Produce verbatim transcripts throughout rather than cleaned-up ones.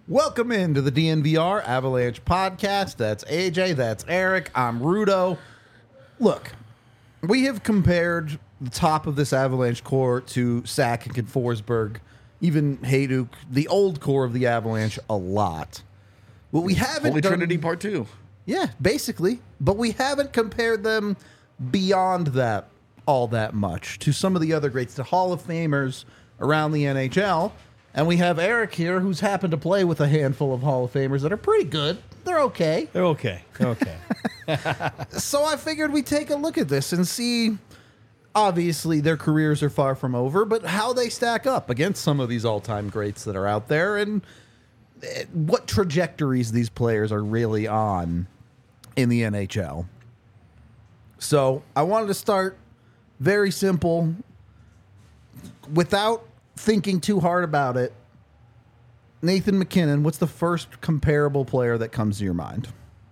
Welcome into the D N V R Avalanche podcast. That's A J, that's Eric, I'm Rudo. Look, we have compared the top of this Avalanche core to Sakic and Forsberg, even Hayduk, the old core of the Avalanche, a lot. What we haven't Holy done, Trinity Part Two. Yeah, basically. But we haven't compared them beyond that all that much to some of the other greats, the Hall of Famers around the N H L. And we have Eric here, who's happened to play with a handful of Hall of Famers that are pretty good. They're okay. They're okay. They're okay. So I figured we'd take a look at this and see, obviously, their careers are far from over, but how they stack up against some of these all-time greats that are out there and what trajectories these players are really on in the N H L. So I wanted to start very simple, without thinking too hard about it. Nathan MacKinnon, what's the first comparable player that comes to your mind?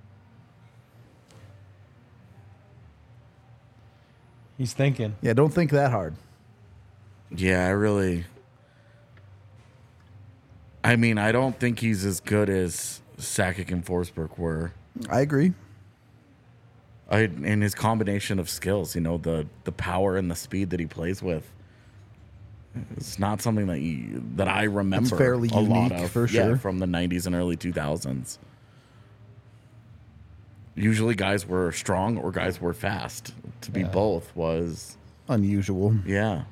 He's thinking. Yeah, don't think that hard. Yeah, I really. I mean, I don't think he's as good as Sakic and Forsberg were. I agree. I, and his combination of skills, you know, the the power and the speed that he plays with. It's not something that you, that I remember. It's fairly a lot unique, of, for yeah, sure. from the nineties and early two thousands. Usually guys were strong or guys were fast. To be Yeah. both was, Unusual. yeah.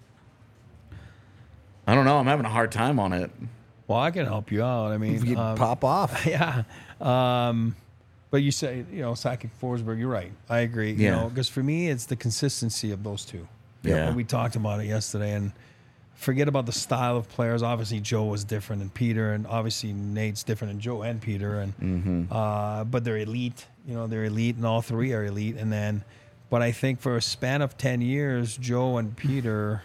I don't know. I'm having a hard time on it. Well, I can help you out. I mean, You um, pop off. yeah. Um, but you say, you know, Sakic, Forsberg, you're right. I agree. You Yeah. know, because for me, it's the consistency of those two. Yeah. And we talked about it yesterday, and forget about the style of players. Obviously, Joe was different than Peter, and obviously Nate's different than Joe and Peter. And Mm-hmm. uh, but they're elite. You know, they're elite, and all three are elite. And then, but I think for a span of ten years, Joe and Peter,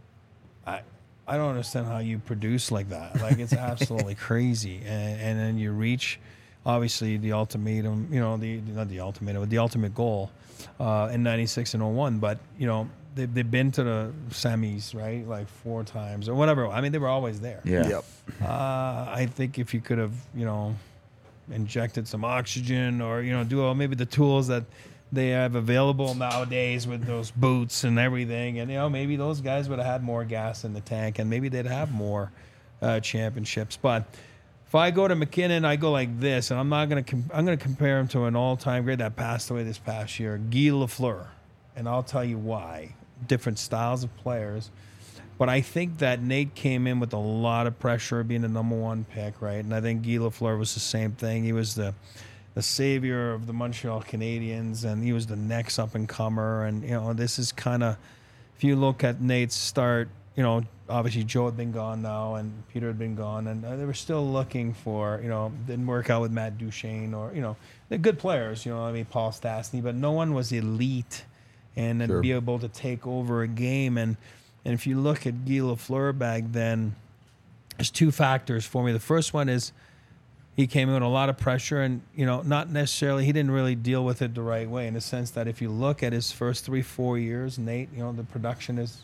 I I don't understand how you produce like that. Like, it's absolutely crazy. And and then you reach, obviously, the ultimatum. You know, the not the ultimatum, but the ultimate goal uh, in ninety-six and oh one. But you know, they they've been to the semis, right? Like four times or whatever. I mean, they were always there. Yeah. Yep. Uh, I think if you could have, you know, injected some oxygen or, you know, do all maybe the tools that they have available nowadays with those boots and everything. And, you know, maybe those guys would have had more gas in the tank and maybe they'd have more uh, championships. But if I go to MacKinnon, I go like this, and I'm not going to, com- I'm going to compare him to an all-time great that passed away this past year, Guy Lafleur. And I'll tell you why. Different styles of players. But I think that Nate came in with a lot of pressure being the number one pick, right? And I think Guy Lafleur was the same thing. He was the the savior of the Montreal Canadiens, and he was the next up-and-comer. And, you know, this is kind of, if you look at Nate's start, you know, obviously Joe had been gone now, and Peter had been gone, and they were still looking for, you know, didn't work out with Matt Duchene or, you know, they're good players, you know, I mean, Paul Stastny, but no one was elite and then Sure. be able to take over a game. And And if you look at Guy Lafleur back then, there's two factors for me. The first one is he came in with a lot of pressure, and, you know, not necessarily, he didn't really deal with it the right way, in the sense that if you look at his first three, four years, Nate, you know, the production is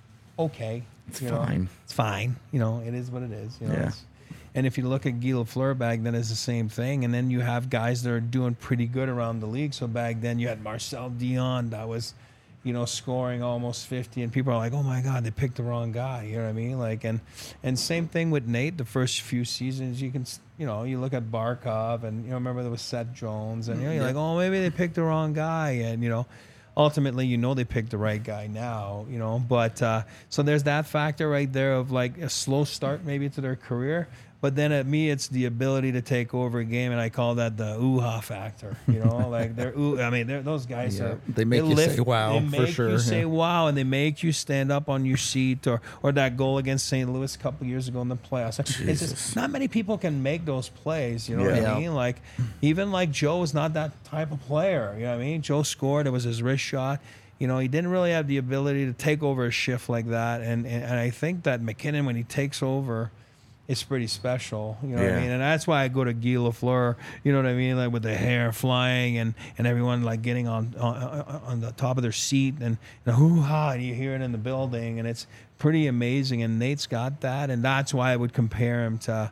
okay. It's you know. fine. It's fine. You know, it is what it is. You know, Yeah. it's- and if you look at Guy Lafleur back then, it's the same thing. And then you have guys that are doing pretty good around the league. So back then you had Marcel Dion that was, you know, scoring almost fifty, and people are like, oh my God, they picked the wrong guy. You know what I mean? Like, and, and same thing with Nate, the first few seasons, you can, you know, you look at Barkov, and, you know, remember there was Seth Jones, and, you know, you're like, oh, maybe they picked the wrong guy. And, you know, ultimately, you know, they picked the right guy now, you know, but, uh, so there's that factor right there of like a slow start maybe to their career. But then at me, it's the ability to take over a game, and I call that the ooh-ha factor. You know, like they're ooh. I mean, they're, those guys Yeah, are. they make you say wow, They for make sure, you say yeah. wow, and they make you stand up on your seat, or or that goal against Saint Louis a couple years ago in the playoffs. It's just not many people can make those plays. You know what Yeah. I mean? Like even like Joe is not that type of player. You know what I mean? Joe scored. It was his wrist shot. You know, he didn't really have the ability to take over a shift like that. And and, and I think that MacKinnon, when he takes over, it's pretty special, you know what I Yeah. mean? And that's why I go to Guy Lafleur, you know what I mean? Like with the hair flying and, and everyone like getting on, on on the top of their seat and, and hoo-ha, and you hear it in the building, and it's pretty amazing. And Nate's got that, and that's why I would compare him to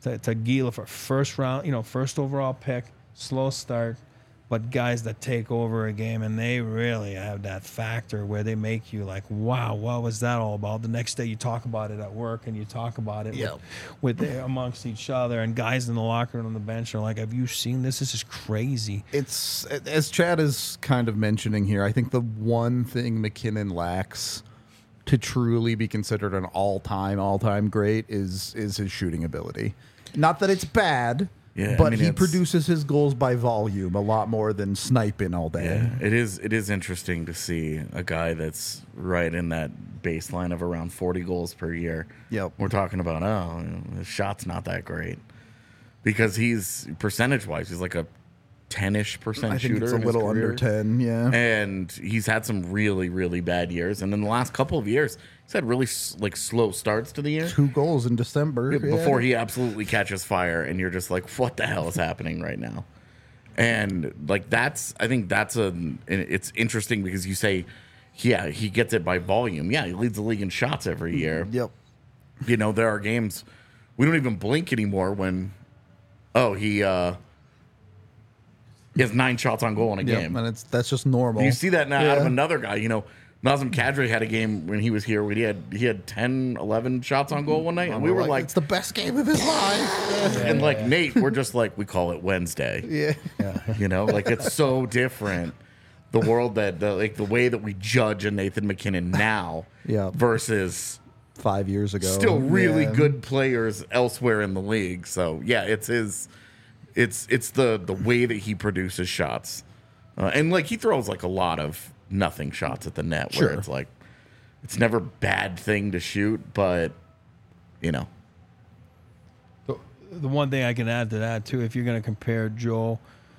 to, to Gila for first round, you know, first overall pick, slow start, but guys that take over a game and they really have that factor where they make you like, wow, what was that all about? The next day you talk about it at work and you talk about it Yep. with, with amongst each other, and guys in the locker room on the bench are like, have you seen this? This is crazy. It's as Chad is kind of mentioning here. I think the one thing McKinnon lacks to truly be considered an all-time, all-time great is is his shooting ability. Not that it's bad, Yeah, I but mean, he it's- produces his goals by volume a lot more than sniping all day. Yeah, it is. It is interesting to see a guy that's right in that baseline of around forty goals per year. Yep. We're talking about oh, you know, his shot's not that great because he's percentage wise, he's like a ten-ish percent I think shooter. it's a in his little under career. ten, yeah. And he's had some really, really bad years. And in the last couple of years, he's had really s- like slow starts to the year Two goals in December. before yeah. he absolutely catches fire, and you're just like, what the hell is happening right now? And like that's, I think that's a, it's interesting because you say, yeah, he gets it by volume. Yeah, he leads the league in shots every year. Yep. You know, there are games we don't even blink anymore when, oh, he uh, he has nine shots on goal in a Yep. game. And it's that's just normal. You see that now out of Yeah. another guy. You know, Nazem Kadri had a game when he was here where he had he had ten, eleven shots on goal one night, and we were like, it's the best game of his life. and like Nate, we're just like, we call it Wednesday. yeah. You know, like it's so different. The world that the, like the way that we judge a Nathan McKinnon now Yeah. versus Five years ago. still really Yeah. good players elsewhere in the league. So yeah, it's his, it's it's the the way that he produces shots, uh, and like he throws like a lot of nothing shots at the net where Sure. it's like it's never a bad thing to shoot, but you know, The, the one thing I can add to that too, if you're going to compare Joe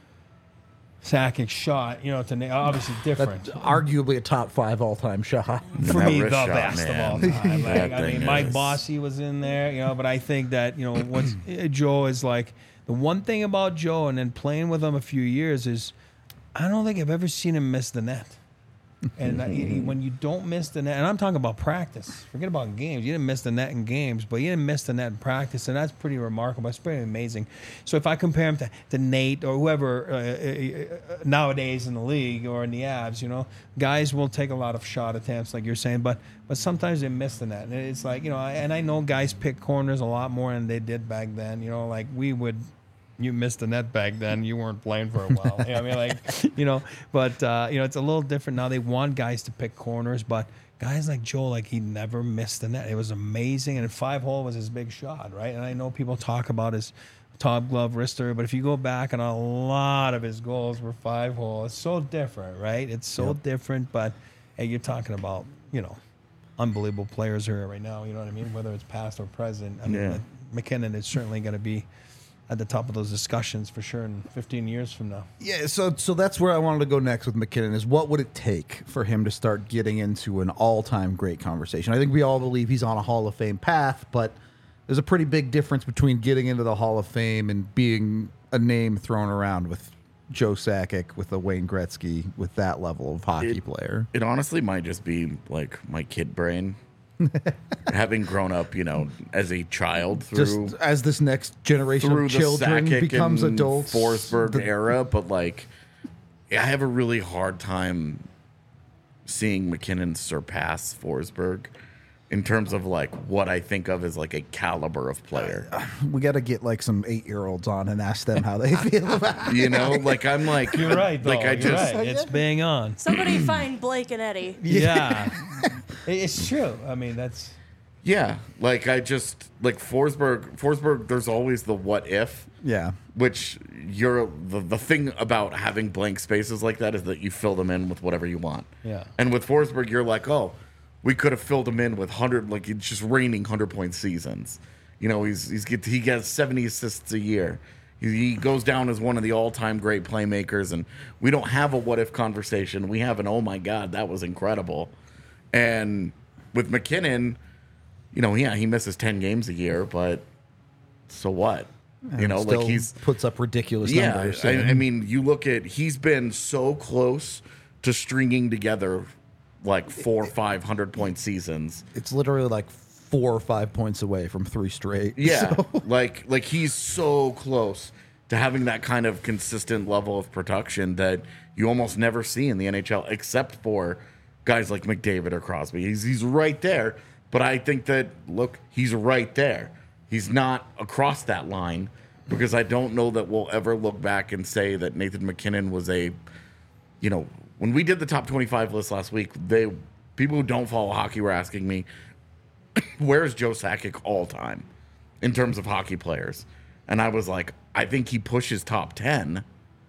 Sakic shot, you know, to Na- obviously different. That's arguably a top five all time shot. For That me, the wrist shot, best man. of all time. Like, That I mean, thing Mike is- Bossy was in there, you know, but I think that, you know, what's Joe is like, the one thing about Joe and then playing with him a few years is I don't think I've ever seen him miss the net. And I- he- when you don't miss the net, and I'm talking about practice, forget about games. You didn't miss the net in games, but you didn't miss the net in practice, and that's pretty remarkable. It's pretty amazing. So if I compare him to, to Nate or whoever uh, uh, uh, nowadays in the league or in the Avs, you know, guys will take a lot of shot attempts, like you're saying, but but sometimes they miss the net. And it's like, you know, and I know guys pick corners a lot more than they did back then. You know, like we would. You missed the net back then. You weren't playing for a while. You know, I mean, like, you know, but, uh, you know, it's a little different now. They want guys to pick corners, but guys like Joel, like, he never missed the net. It was amazing. And five hole was his big shot, right? And I know people talk about his top glove wrister, but if you go back and a lot of his goals were five hole, it's so different, right? It's so Yep. different, but hey, you're talking about, you know, unbelievable players here right now. You know what I mean? Whether it's past or present. I mean, Yeah. like, McKinnon is certainly going to be at the top of those discussions for sure in fifteen years from now. Yeah, so so that's where I wanted to go next with McKinnon is what would it take for him to start getting into an all-time great conversation? I think we all believe he's on a Hall of Fame path, but there's a pretty big difference between getting into the Hall of Fame and being a name thrown around with Joe Sakic, with a Wayne Gretzky, with that level of hockey It- player. it honestly might just be like my kid brain. Having grown up, you know, as a child through Just as this next generation through of the children Sakic becomes and adults. Forsberg the- era, but like, I have a really hard time seeing McKinnon surpass Forsberg in terms of like what I think of as like a caliber of player. we got to get like some eight-year-olds on and ask them how they feel about it. You know, like I'm like You're right, though. Like I You're just right. It's bang on. Somebody find Blake and Eddie. Yeah. It- it's true. I mean, that's yeah, like I just like Forsberg. Forsberg. There's always the what if. Yeah. Which you're the, the thing about having blank spaces like that is that you fill them in with whatever you want. Yeah. And with Forsberg, you're like, oh, we could have filled him in with hundred, like it's just raining hundred point seasons. You know, he's he's get he gets seventy assists a year. He, he goes down as one of the all time great playmakers, and we don't have a what if conversation. We have an oh my god, that was incredible. And with McKinnon, you know, yeah, he misses ten games a year, but so what? You know, Still like he's puts up ridiculous yeah. numbers. I, I mean, you look at he's been so close to stringing together like four, five hundred point seasons. it's literally like four or five points away from three straight. Yeah, So- like like he's so close to having that kind of consistent level of production that you almost never see in the N H L, except for guys like McDavid or Crosby. He's he's right there, but I think that look, he's right there. He's not across that line because I don't know that we'll ever look back and say that Nathan MacKinnon was a, you know, when we did the top twenty-five list last week, they people who don't follow hockey were asking me, where's Joe Sakic all time in terms of hockey players? And I was like, I think he pushes top ten.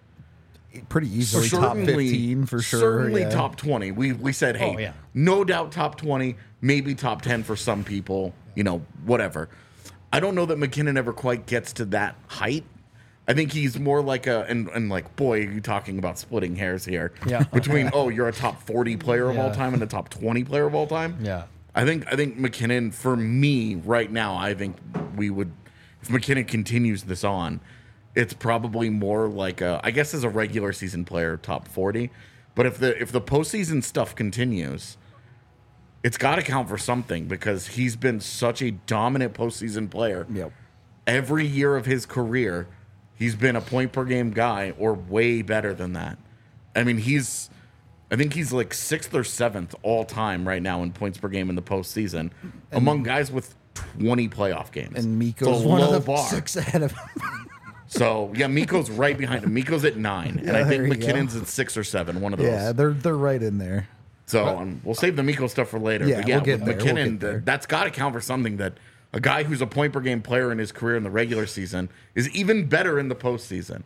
Pretty easily top fifteen for sure. Certainly yeah. top twenty. We we said, hey, Oh, yeah. no doubt top twenty, maybe top ten for some people, you know, whatever. I don't know that McKinnon ever quite gets to that height. I think he's more like a, and, and like, boy, are you talking about splitting hairs here. Yeah. Between, oh, you're a top forty player of all Yeah. time and a top twenty player of all time. Yeah. I think I think McKinnon, for me right now, I think we would, if McKinnon continues this on, it's probably more like a, I guess as a regular season player, top forty. But if the if the postseason stuff continues, it's got to count for something because he's been such a dominant postseason player. Yep. Every year of his career, he's been a point per game guy or way better than that. I mean, he's, I think he's like sixth or seventh all time right now in points per game in the postseason among guys with twenty playoff games. And It's Miko's a one low of the bar. six ahead of him. So yeah, Miko's right behind him. Miko's at nine, and Yeah, I think there you McKinnon's at six or seven. One of those. Yeah, they're they're right in there. So um, we'll save the Miko stuff for later. Yeah, but yeah, we'll get with there, we'll McKinnon, get there. th- that's got to count for something. That a guy who's a point per game player in his career in the regular season is even better in the postseason.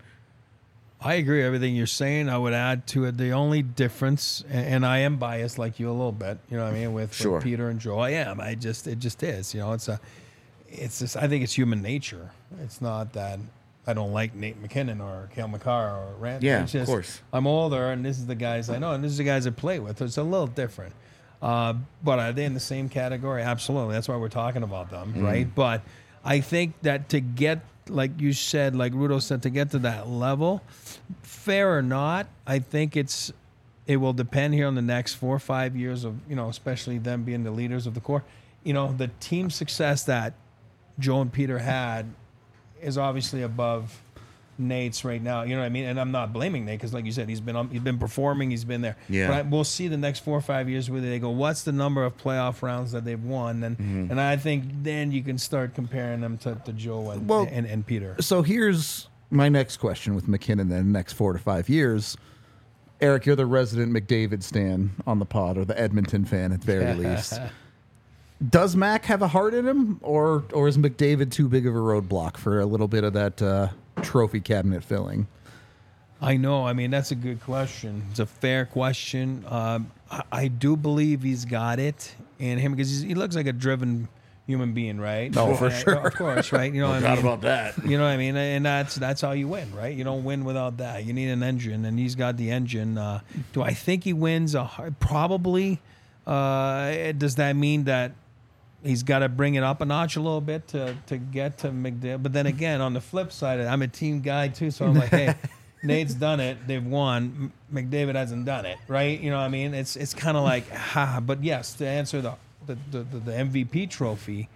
I agree with everything you're saying. I would add to it the only difference, and, and I am biased like you a little bit. You know what I mean with, Sure. with Peter and Joe. I am. I just it just is. You know, it's a, it's just. I think it's human nature. It's not that I don't like Nate McKinnon or Cale Makar or Randy. Yeah, it's of just, course. I'm older, and this is the guys I know, and this is the guys I play with. It's a little different. Uh, but are they in the same category? Absolutely. That's why we're talking about them, Mm-hmm. right? But I think that to get, like you said, like Rudo said, to get to that level, fair or not, I think it's it will depend here on the next four or five years of, you know, especially them being the leaders of the core. You know, the team success that Joe and Peter had is obviously above Nate's right now. You know what I mean? And I'm not blaming Nate because, like you said, he's been on, he's been performing, he's been there. Yeah. But I, we'll see the next four or five years where they go, what's the number of playoff rounds that they've won? And Mm-hmm. and I think then you can start comparing them to, to Joe and, Well- and and Peter. So here's my next question with McKinnon. Then next four to five years, Eric, you're the resident McDavid stan on the pod, or the Edmonton fan at the very least. Does Mac have a heart in him, or or is McDavid too big of a roadblock for a little bit of that uh, trophy cabinet filling? I know. I mean, that's a good question. It's a fair question. Um, I, I do believe he's got it in him because he's, he looks like a driven human being, right? Oh, for I- sure. Of course, right? You know what I Forgot mean? about that. You know what I mean? And that's that's how you win, right? You don't win without that. You need an engine, and he's got the engine. Uh, do I think he wins? A hard, probably. Uh, does that mean that he's got to bring it up a notch a little bit to to get to McDavid? But then again, on the flip side, I'm a team guy too, so I'm like, hey, Nate's done it. They've won. M- McDavid hasn't done it, right? You know what I mean? It's it's kind of like, ha. But yes, to answer the the, the the the M V P trophy.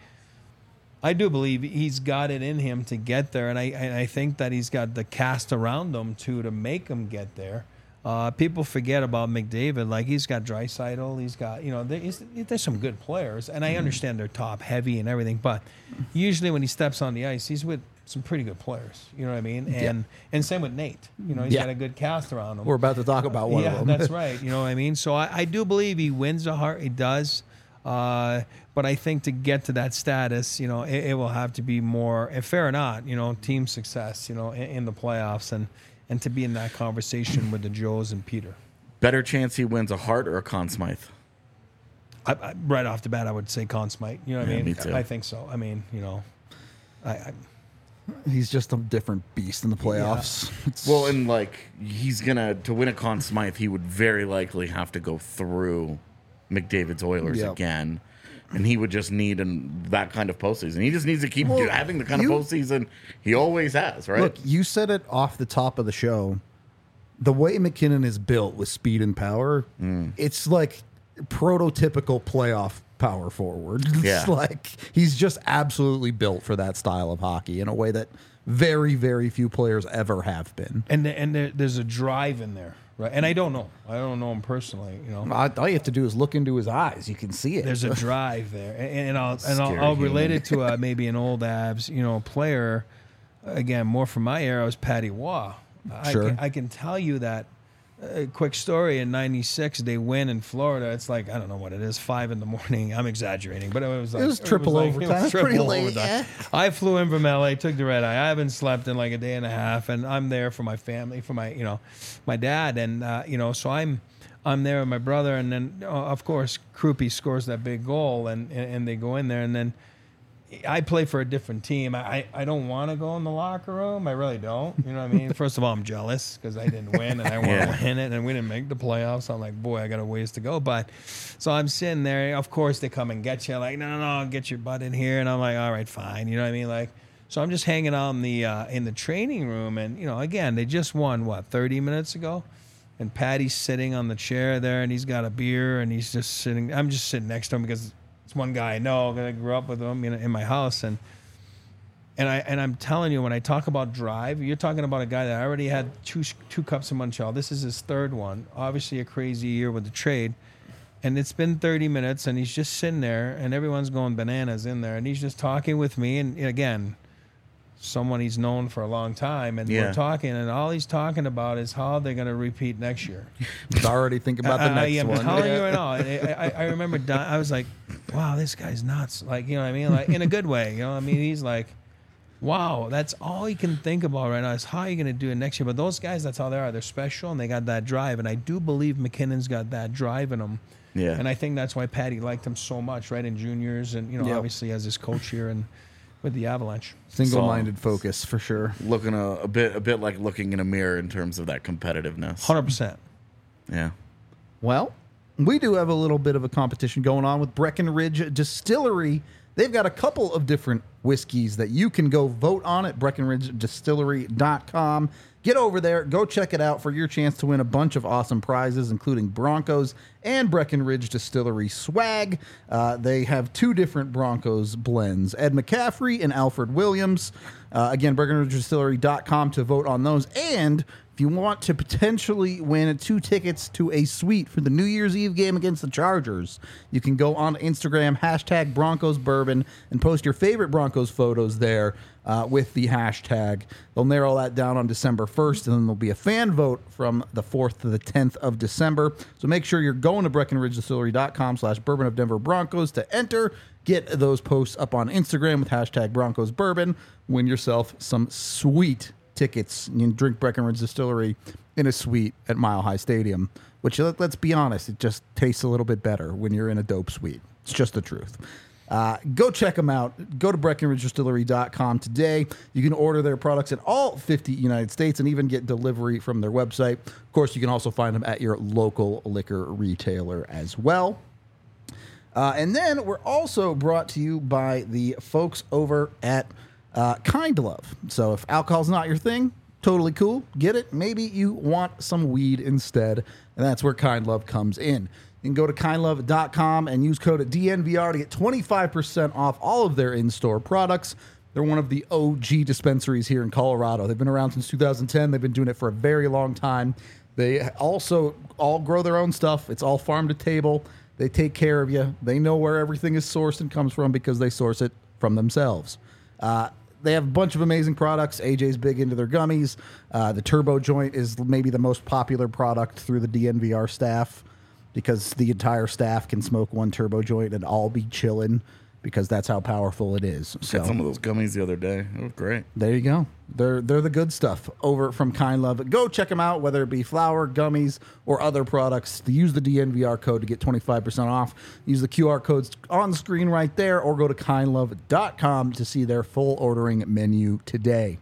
I do believe he's got it in him to get there, and I and I think that he's got the cast around him too to make him get there. Uh, people forget about McDavid. Like, he's got Draisaitl, he's got, you know, there's, there's some good players, and I understand they're top heavy and everything, but usually when he steps on the ice, he's with some pretty good players. You know what I mean? And and same with Nate. You know, he's Yeah. got a good cast around him. We're about to talk about one yeah, of them. that's right. You know what I mean? So I, I do believe he wins the heart. He does. Uh, but I think to get to that status, you know, it, it will have to be more, if fair or not, you know, team success, you know, in, in the playoffs and, and to be in that conversation with the Joes and Peter. Better chance he wins a Hart or a Conn Smythe. I, I, right off the bat, I would say Conn Smythe. You know what Yeah, I mean? me too. I think so. I mean, you know, I, I He's just a different beast in the playoffs. It's- Well, and like he's gonna to win a Conn Smythe, he would very likely have to go through McDavid's Oilers Yep. again, and he would just need an, that kind of postseason. He just needs to keep Well, do- having the kind you- of postseason he always has, right? Look, you said it off the top of the show. The way McKinnon is built with speed and power, Mm. it's like prototypical playoff power forward. It's Yeah. like he's just absolutely built for that style of hockey in a way that very, very few players ever have been. And the, and there, there's a drive in there, right? And I don't know. I don't know him personally. You know, I- All you have to do is look into his eyes. You can see it. there's a drive there, and, and I'll and I'll, Scary I'll relate human. it to uh, maybe an old Abs, you know, player. Again, more from my era was Patty Waugh. I Sure. can, I can tell you that. A quick story: in ninety-six, they win in Florida. It's like I don't know what it is, five in the morning. I'm exaggerating, but it was like was triple like- overtime. it was It's pretty triple late, overtime. yeah. I flew in from L A, took the red eye. I haven't slept in like a day and a half, and I'm there for my family, for my you know, my dad, and uh, you know, so I'm I'm there with my brother, and then uh, of course Krupe scores that big goal, and, and and they go in there, and then I play for a different team. I, I don't want to go in the locker room. I really don't. You know what I mean? First of all, I'm jealous because I didn't win and I want to Yeah. win it, and we didn't make the playoffs. So I'm like, boy, I got a ways to go. But so I'm sitting there. Of course, they come and get you. Like, no, no, no, get your butt in here. And I'm like, all right, fine. You know what I mean? Like, so I'm just hanging out in the uh, in the training room, and you know, again, they just won what thirty minutes ago. And Patty's sitting on the chair there, and he's got a beer, and he's just sitting. I'm just sitting next to him because it's one guy I know. I grew up with him in, in my house, and and I and I'm telling you, when I talk about drive, you're talking about a guy that already had two two cups of Montreal. This is his third one. Obviously, a crazy year with the trade, and it's been thirty minutes, and he's just sitting there, and everyone's going bananas in there, and he's just talking with me, and again, someone he's known for a long time, and Yeah. we're talking, and all he's talking about is how they're going to repeat next year. He's already thinking about the I, I next am one. telling Yeah. you right now. I, I, I remember di- I was like, wow, this guy's nuts. Like, you know what I mean? Like, in a good way. You know what I mean? He's like, wow, that's all he can think about right now is how are you going to do it next year? But those guys, that's how they are. They're special, and they got that drive. And I do believe McKinnon's got that drive in him. Yeah. And I think that's why Patty liked him so much, right, in juniors. And, you know, Yep. obviously as his coach here and with the Avalanche. Single-minded focus for sure. Looking a, a bit, a bit like looking in a mirror in terms of that competitiveness. one hundred percent. Yeah. Well, we do have a little bit of a competition going on with Breckenridge Distillery. They've got a couple of different whiskeys that you can go vote on at Breckenridge Distillery dot com. Get over there, go check it out for your chance to win a bunch of awesome prizes, including Broncos and Breckenridge Distillery swag. Uh, they have two different Broncos blends, Ed McCaffrey and Alfred Williams. Uh, again, Breckenridge Distillery dot com to vote on those. And if you want to potentially win two tickets to a suite for the New Year's Eve game against the Chargers, you can go on Instagram, hashtag Broncos Bourbon, and post your favorite Broncos photos there uh, with the hashtag. They'll narrow that down on December first, and then there'll be a fan vote from the fourth to the tenth of December. So make sure you're going to Breckenridge Distillery dot com slash Bourbon of Denver Broncos to enter. Get those posts up on Instagram with hashtag Broncos Bourbon. Win yourself some sweet tickets. You can drink Breckenridge Distillery in a suite at Mile High Stadium, which, let, let's be honest, it just tastes a little bit better when you're in a dope suite. It's just the truth. Uh, go check them out. Go to Breckenridge Distillery dot com today. You can order their products in all fifty United States and even get delivery from their website. Of course, you can also find them at your local liquor retailer as well. Uh, and then we're also brought to you by the folks over at uh, Kind Love. So if alcohol's not your thing, totally cool. Get it. Maybe you want some weed instead, and that's where Kind Love comes in. You can go to kind love dot com and use code D N V R to get twenty-five percent off all of their in-store products. They're one of the O G dispensaries here in Colorado. They've been around since two thousand ten. They've been doing it for a very long time. They also all grow their own stuff. It's all farm to table. They take care of you. They know where everything is sourced and comes from because they source it from themselves. Uh, they have a bunch of amazing products. A J's big into their gummies. Uh, the Turbo Joint is maybe the most popular product through the D N V R staff because the entire staff can smoke one Turbo Joint and all be chilling because that's how powerful it is. So Had some of those gummies the other day. It was great. there you go. They're they're the good stuff over from Kind Love. Go check them out, whether it be flour, gummies, or other products. Use the D N V R code to get twenty-five percent off. Use the Q R codes on the screen right there, or go to kind love dot com to see their full ordering menu today.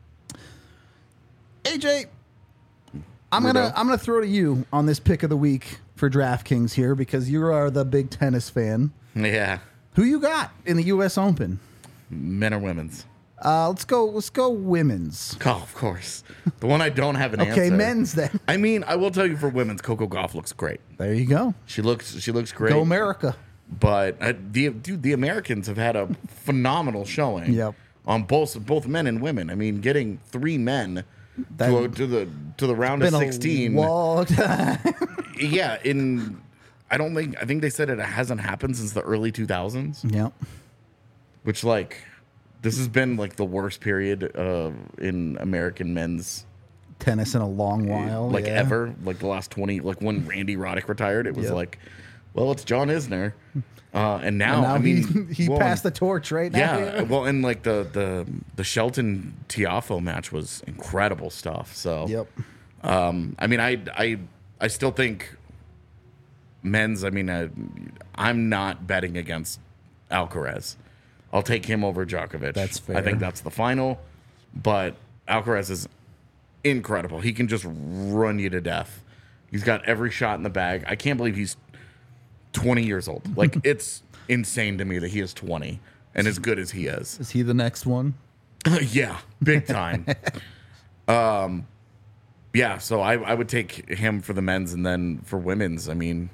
A J, I'm Weirdo. gonna I'm gonna throw to you on this pick of the week for DraftKings here because you are the big tennis fan. Yeah. Who you got in the U S Open? Men or women's? Uh, let's go. Let's go. Women's. Oh, of course. The one I don't have an Okay, answer. men's then. I mean, I will tell you for women's, Coco Gauff looks great. There you go. She looks she looks great. Go America. But uh, the dude, the Americans have had a phenomenal showing. Yep. On both both men and women. I mean, getting three men That- to, a, to the to the round of Been sixteen. a long time. Yeah, in I don't think I think they said it hasn't happened since the early two thousands, Yep. which like this has been like the worst period uh, in American men's Tennis in a long while. like yeah. ever. Like the last twenty, like when Randy Roddick retired, it was Yep. like, well, it's John Isner, uh, and now, And now I mean he, he well, passed the torch right now. yeah, well, and like the the the Shelton Tiafo match was incredible stuff. So Yep. um, I mean, I I I still think men's. I mean, I, I'm not betting against Alcaraz. I'll take him over Djokovic. That's I fair. think that's the final, but Alcaraz is incredible. He can just run you to death. He's got every shot in the bag. I can't believe he's twenty years old. Like, it's insane to me that he is twenty and as good as he is. Is he the next one? Yeah, big time. um, yeah, so I, I would take him for the men's, and then for women's, I mean,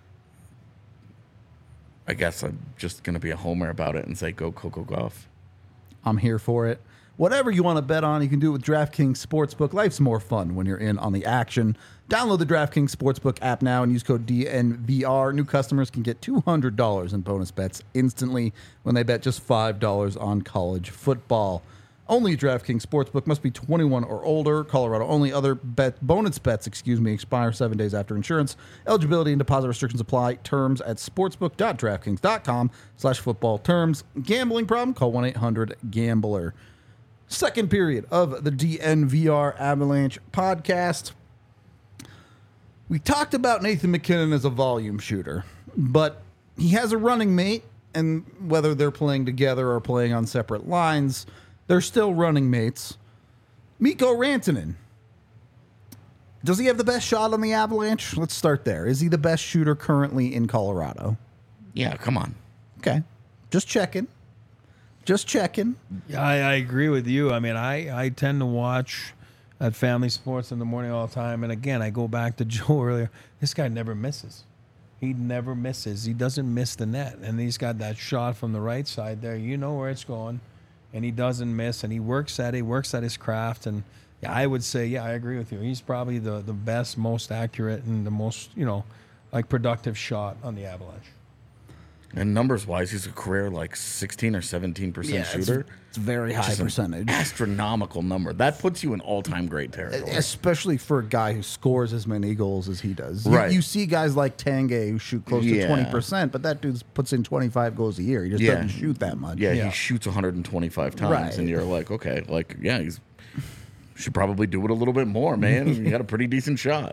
I guess I'm just going to be a homer about it and say go Coco Gauff. I'm here for it. Whatever you want to bet on, you can do it with DraftKings Sportsbook. Life's more fun when you're in on the action. Download the DraftKings Sportsbook app now and use code D N V R. New customers can get two hundred dollars in bonus bets instantly when they bet just five dollars on college football. Only DraftKings Sportsbook. Must be twenty-one or older. Colorado only. Other bet bonus bets, excuse me, expire seven days after insurance. Eligibility and deposit restrictions apply. Terms at sportsbook.draftkings.com slash football terms. Gambling problem? Call one eight hundred gambler. Second period of the D N V R Avalanche podcast. We talked about Nathan MacKinnon as a volume shooter, but he has a running mate, and whether they're playing together or playing on separate lines, they're still running mates. Mikko Rantanen. Does he have the best shot on the Avalanche? Let's start there. Is he the best shooter currently in Colorado? Yeah, come on. Okay. Just checking. Just checking. Yeah, I, I agree with you. I mean, I, I tend to watch at Family Sports in the morning all the time. And again, I go back to Joe earlier. This guy never misses. He never misses. He doesn't miss the net. And he's got that shot from the right side there. You know where it's going. And he doesn't miss. And he works at it. He works at his craft. And yeah, I would say, yeah, I agree with you. He's probably the, the best, most accurate, and the most, you know, like productive shot on the Avalanche. And numbers wise, he's a career like sixteen or seventeen percent shooter. It's, it's very high Just an percentage. astronomical number. That puts you in all time great territory. Especially for a guy who scores as many goals as he does. You- Right. You, see guys like Tanguay who shoot close to Yeah. twenty percent, but that dude puts in twenty-five goals a year. He just Yeah. doesn't shoot that much. Yeah, Yeah. he shoots one hundred twenty-five times, Right. and you're like, okay, like, yeah, he's should probably do it a little bit more, man. He got a pretty decent shot.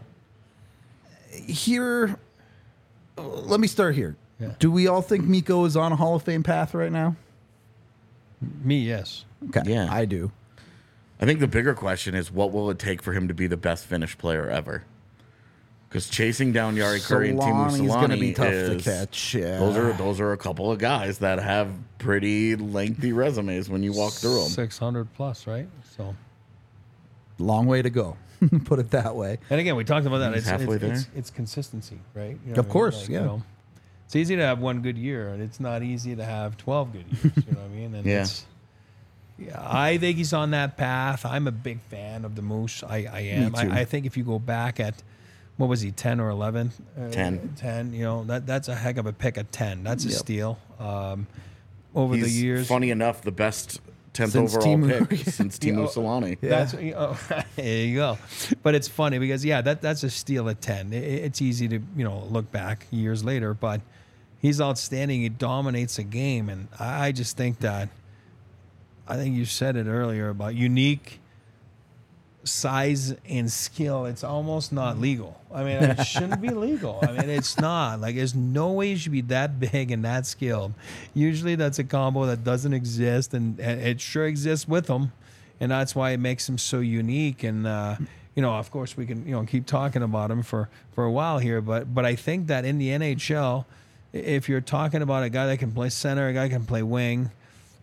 Here, let me start here. Yeah. Do we all think Mikko is on a Hall of Fame path right now? Me, yes. Okay. Yeah. I do. I think the bigger question is, what will it take for him to be the best Finnish player ever? Because chasing down Jari Kurri and Teemu Solani's going to be Solani tough is, to catch. Yeah. those are those are a couple of guys that have pretty lengthy resumes when you walk through them. six hundred plus, right? So, long way to go. Put it that way. and again, we talked about that. He's It's, halfway it's, it's, there. it's consistency, right? You Of know what I mean? course, yeah. it's easy to have one good year, and it's not easy to have twelve good years. You know what I mean? And Yeah. It's, yeah, I think he's on that path. I'm a big fan of the Moose. I, I am. Me too. I, I think if you go back at, what was he, ten or eleven? Uh, ten. ten, you know, that that's a heck of a pick at ten. That's a Yep. steal. Um, over He's the years. funny enough, the best tenth Since overall Teemu- pick since Teemu Yeah. Solani. Yeah. That's oh, there you go. But it's funny because yeah, that that's a steal at ten. It, it's easy to you know look back years later, but he's outstanding. He dominates a game, and I, I just think that I think you said it earlier about unique size and skill. It's almost not legal. I mean, it shouldn't be legal. I mean, it's not. Like, there's no way you should be that big and that skilled. Usually, that's a combo that doesn't exist, and, and it sure exists with him, and that's why it makes him so unique. And uh, you know, of course, we can you know keep talking about him for for a while here, but but I think that in the N H L, if you're talking about a guy that can play center, a guy that can play wing,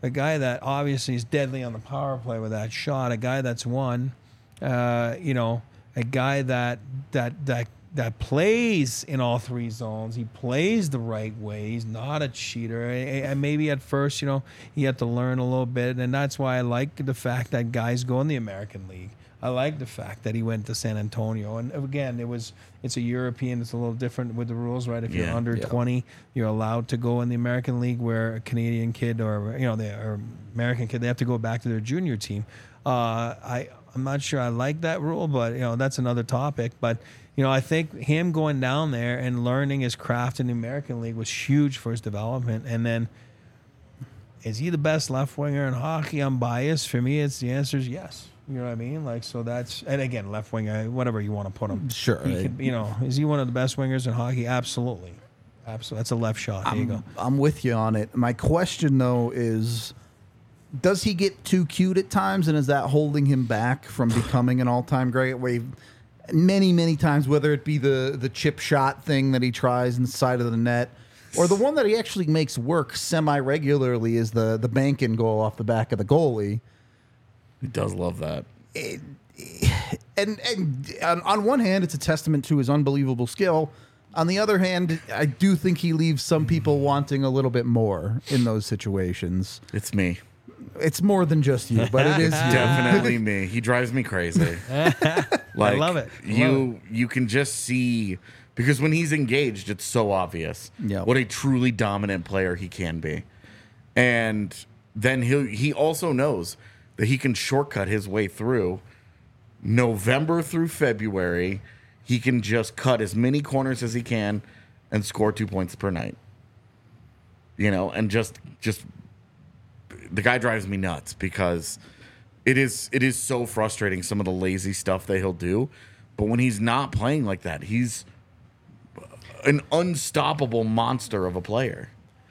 a guy that obviously is deadly on the power play with that shot, a guy that's won, uh, you know, a guy that that that that plays in all three zones. He plays the right way. He's not a cheater. And maybe at first, you know, he had to learn a little bit, and that's why I like the fact that guys go in the American League. I like the fact that he went to San Antonio. And again, it was it's a European. It's a little different with the rules, right? If you're Yeah. under Yeah. twenty, you're allowed to go in the American League, where a Canadian kid or you know they or American kid, they have to go back to their junior team. Uh, I I'm not sure I like that rule, but you know that's another topic. But you know I think him going down there and learning his craft in the American League was huge for his development. And then, is he the best left winger in hockey? I'm biased. For me, it's the answer is yes. You know what I mean? Like, so that's, and again, left winger, whatever you want to put him. Sure. He could, you know, is he one of the best wingers in hockey? Absolutely. Absolutely. That's a left shot. There you go. I'm with you on it. My question, though, is does he get too cute at times, and is that holding him back from becoming an all-time great? Where he- many, many times, whether it be the, the chip shot thing that he tries inside of the net, or the one that he actually makes work semi-regularly is the, the bank-in goal off the back of the goalie. He does love that. And, and on, on one hand, it's a testament to his unbelievable skill. On the other hand, I do think he leaves some people wanting a little bit more in those situations. It's me. It's more than just you, but it is you. Definitely me. He drives me crazy. Like, love it. I you love you can just see, because when he's engaged, it's so obvious Yeah. what a truly dominant player he can be. And then he he also knows that he can shortcut his way through November through February. He can just cut as many corners as he can and score two points per night. You know, and just just the guy drives me nuts because it is it is so frustrating, some of the lazy stuff that he'll do. But when he's not playing like that, he's an unstoppable monster of a player.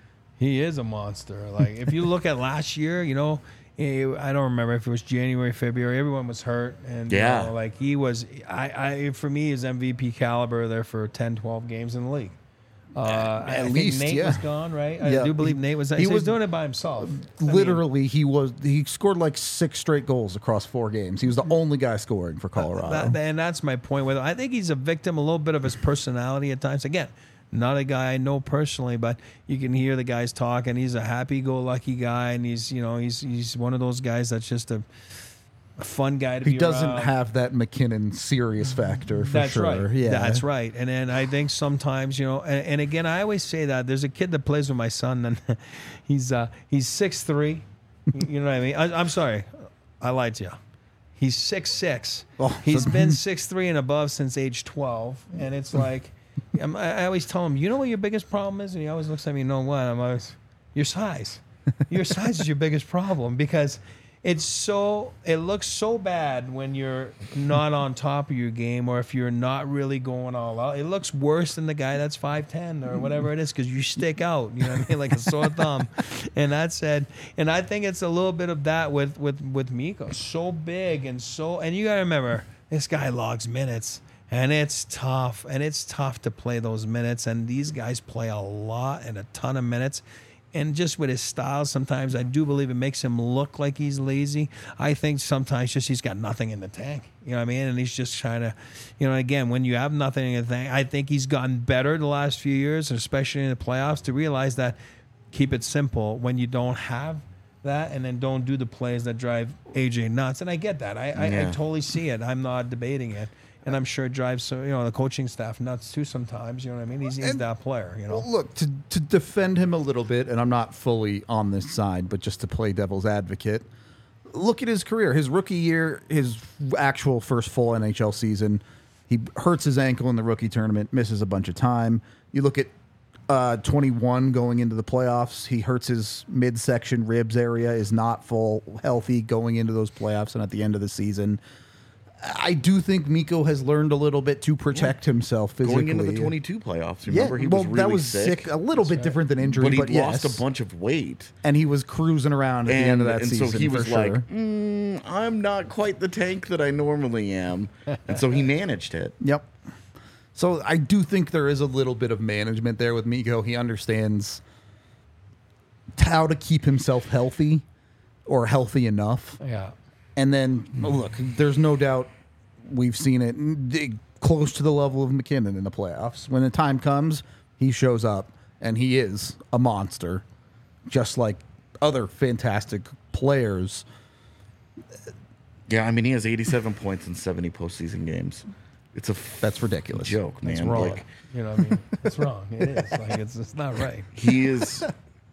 He is a monster. Like, if you look at last year, you know, eh, I don't remember if it was January, February. Everyone was hurt, and Yeah. you know, like he was. I, I for me, is M V P caliber there for ten, twelve games in the league. Uh, I at think least, Nate yeah. was gone, right? I Yeah. do believe Nate was. He He, was was- doing it by himself. I mean, Literally, he was he scored like six straight goals across four games. He was the only guy scoring for Colorado. That, and that's my point with him. I think he's a victim a little bit of his personality at times. Again, not a guy I know personally, but you can hear the guys talk, and he's a happy-go-lucky guy, and he's you know he's he's one of those guys that's just a, a fun guy to he be doesn't around. have that McKinnon serious factor for That's sure. right. Yeah, That's right. And then I think sometimes, you know, and, and again, I always say that there's a kid that plays with my son, and he's uh, he's six three. You know what I mean? I, I'm sorry, I lied to you. He's six six. Oh, He's so- been six three and above since age twelve, and it's like, I'm, I always tell him, you know what your biggest problem is, and he always looks at me, you know what? I'm always, your size. Your size is your biggest problem because. It's so it looks so bad when you're not on top of your game, or if you're not really going all out. It looks worse than the guy that's five ten or whatever it is, because you stick out, you know what I mean, like a sore thumb. And that said, and I think it's a little bit of that with with with Mikko. So big and so, and you got to remember, this guy logs minutes. And it's tough, and it's tough to play those minutes. And these guys play a lot and a ton of minutes. And just with his style, sometimes I do believe it makes him look like he's lazy. I think sometimes just he's got nothing in the tank. You know what I mean? And he's just trying to, you know, again, when you have nothing in the tank, I think he's gotten better the last few years, and especially in the playoffs, to realize that keep it simple when you don't have that, and then don't do the plays that drive A J nuts. And I get that. I, I, I Yeah. totally see it. I'm not debating it. And I'm sure it drives, so you know, the coaching staff nuts too sometimes. You know what I mean? He's, he's And- that player, you know? Well, look, to, to defend him a little bit, and I'm not fully on this side, but just to play devil's advocate, look at his career. His rookie year, his actual first full N H L season, he hurts his ankle in the rookie tournament, misses a bunch of time. You look at uh, twenty-one going into the playoffs, he hurts his midsection ribs area, is not full healthy going into those playoffs and at the end of the season. I do think Mikko has learned a little bit to protect himself physically. Going into the twenty-two playoffs, Yeah, remember he well, was really that was sick, A little bit different than injury, but he but, lost yes. a bunch of weight. And he was cruising around at And, the end of that and season. so he for was sure. like, mm, I'm not quite the tank that I normally am. And so he managed it. Yep. So I do think there is a little bit of management there with Mikko. He understands how to keep himself healthy or healthy enough. Yeah. And then, look, there's no doubt we've seen it d- close to the level of McKinnon in the playoffs. When the time comes, he shows up, and he is a monster, just like other fantastic players. Yeah, I mean, he has eighty-seven points in seventy postseason games. It's a f- That's ridiculous. joke, man. It's wrong. Like, You know what I mean? It's wrong. It is. Like, it's, it's not right. he is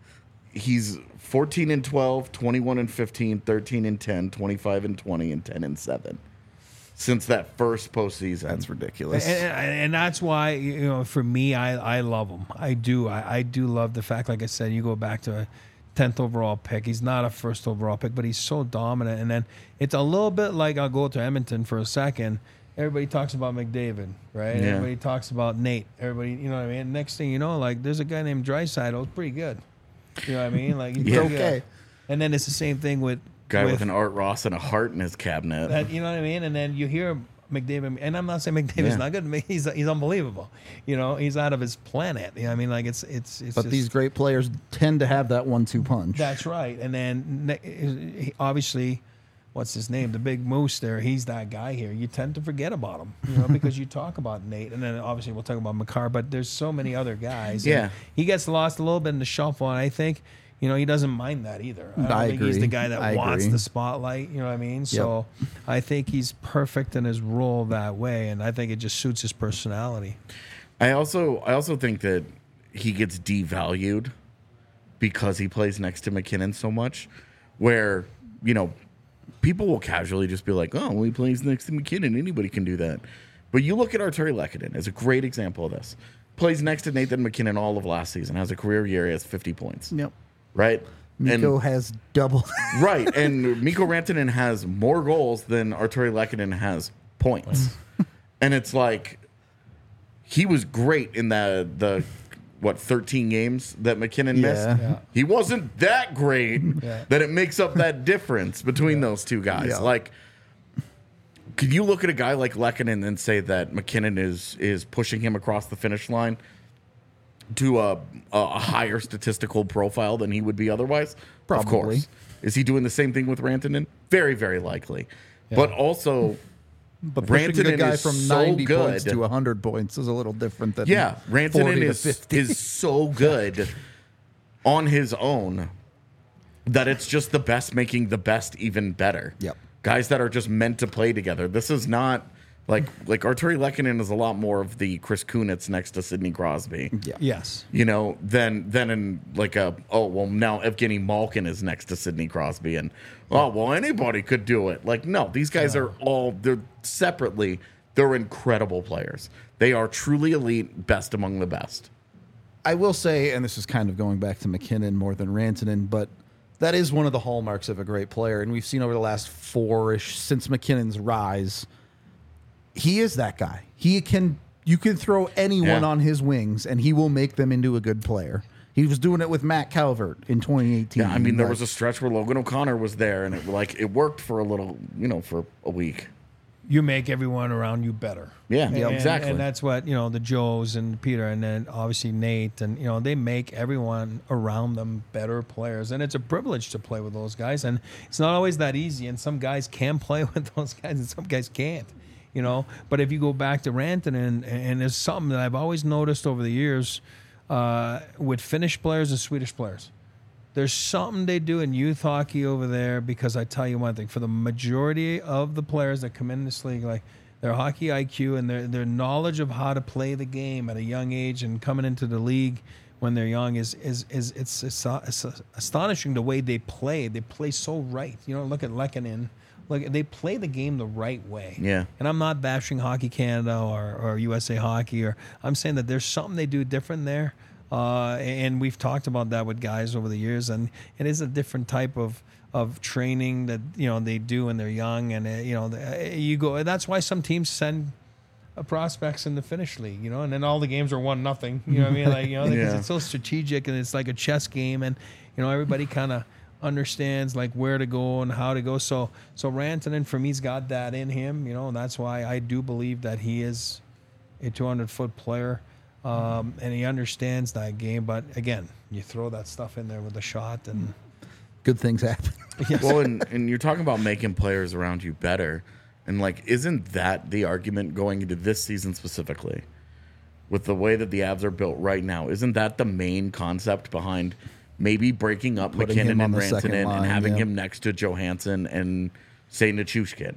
he's fourteen and twelve, twenty-one and fifteen, thirteen and ten, twenty-five and twenty, and ten and seven since that first postseason. That's ridiculous. And, and, and that's why, you know, for me, I, I love him. I do. I, I do love the fact, like I said, you go back to a tenth overall pick. He's not a first overall pick, but he's so dominant. And then it's a little bit like, I'll go to Edmonton for a second. Everybody talks about McDavid, right? Yeah. Everybody talks about Nate. Everybody, you know what I mean? Next thing you know, like, there's a guy named Draisaitl who's pretty good. You know what I mean? Like, he's Yeah. pretty good. Okay. And then it's the same thing with Guy with, with an Art Ross and a heart in his cabinet. that, you know what I mean? And then you hear McDavid, and I'm not saying McDavid's Yeah. not good. He's he's unbelievable. You know, he's out of his planet. You know what I mean? Like, it's it's it's. But just, these great players tend to have that one two punch. That's right. And then ne- he- obviously, what's his name? The big moose there. He's that guy here. You tend to forget about him, you know, because you talk about Nate, and then obviously we'll talk about Makar. But there's so many other guys. and Yeah. he gets lost a little bit in the shuffle, and I think. You know, he doesn't mind that either. I don't I think he's the agree. guy that I wants agree. the spotlight. You know what I mean? So I think he's perfect in his role that way, and I think it just suits his personality. I also I also think that he gets devalued because he plays next to McKinnon so much, where, you know, people will casually just be like, oh, well, he plays next to McKinnon. Anybody can do that. But you look at Arturi Lehkonen as a great example of this. Plays next to Nathan McKinnon all of last season. Has a career year. He has fifty points. Yep. Right? Nico And- has double. Right, and Mikko Rantanen has more goals than Arturi Lehkonen has points, and it's like he was great in the the what thirteen games that McKinnon Yeah. missed. Yeah. He wasn't that great Yeah. that it makes up that difference between those two guys. Yeah. Like, could you look at a guy like Lehkonen and say that McKinnon is is pushing him across the finish line to a, a higher statistical profile than he would be otherwise? Probably. Of course. Is he doing the same thing with Rantanen? Very, very likely. But also, But pushing a Rantanen guy is from so ninety points good. to one hundred points is a little different than yeah, Rantanen forty to is, fifty. is so good on his own that it's just the best making the best even better. Yep. Guys that are just meant to play together. This is not like like Arturi Lehkonen is a lot more of the Chris Kunitz next to Sidney Crosby. Yeah. Yes. You know, than than in like a oh well now Evgeny Malkin is next to Sidney Crosby and oh well anybody could do it. Like no, these guys are all they're separately they're incredible players. They are truly elite, best among the best. I will say, and this is kind of going back to McKinnon more than Rantanen, but that is one of the hallmarks of a great player. And we've seen over the last four-ish, since McKinnon's rise, he is that guy. He can, you can throw anyone Yeah. on his wings, and he will make them into a good player. He was doing it with Matt Calvert in twenty eighteen. Yeah, I mean there Like, was a stretch where Logan O'Connor was there and it like it worked for a little, you know, for a week. You make everyone around you better. Yeah, And- yeah, exactly. And that's what, you know, the Joes and Peter and then obviously Nate and, you know, they make everyone around them better players. And it's a privilege to play with those guys. And it's not always that easy. And some guys can play with those guys and some guys can't, you know. But if you go back to Rantanen, and, and there's something that I've always noticed over the years uh, with Finnish players and Swedish players. There's something they do in youth hockey over there because I tell you one thing, for the majority of the players that come in this league, like their hockey I Q and their, their knowledge of how to play the game at a young age and coming into the league when they're young is is is it's, it's, it's astonishing the way they play. They play so right. You know, look at Lehkonen. Look, they play the game the right way. Yeah. And I'm not bashing Hockey Canada or, or U S A Hockey, or I'm saying that there's something they do different there. Uh, and we've talked about that with guys over the years, and it is a different type of of training that you know they do when they're young, and uh, you know the, uh, you go. That's why some teams send uh, prospects in the Finnish league, you know, and then all the games are one nothing. You know what I mean? Like you know, because Yeah. it's so strategic and it's like a chess game, and you know everybody kind of understands like where to go and how to go. So so Rantanen for me's got that in him, you know, and that's why I do believe that he is a two hundred foot player. um, and he understands that game. But again, you throw that stuff in there with a shot, and Good things happen. yes. Well, and, and you're talking about making players around you better. And, like, isn't that the argument going into this season specifically? With the way that the Avs are built right now, isn't that the main concept behind maybe breaking up Putting him McKinnon on and the second Rantanen line, and having yeah. him next to Johansson and, say, Nichushkin?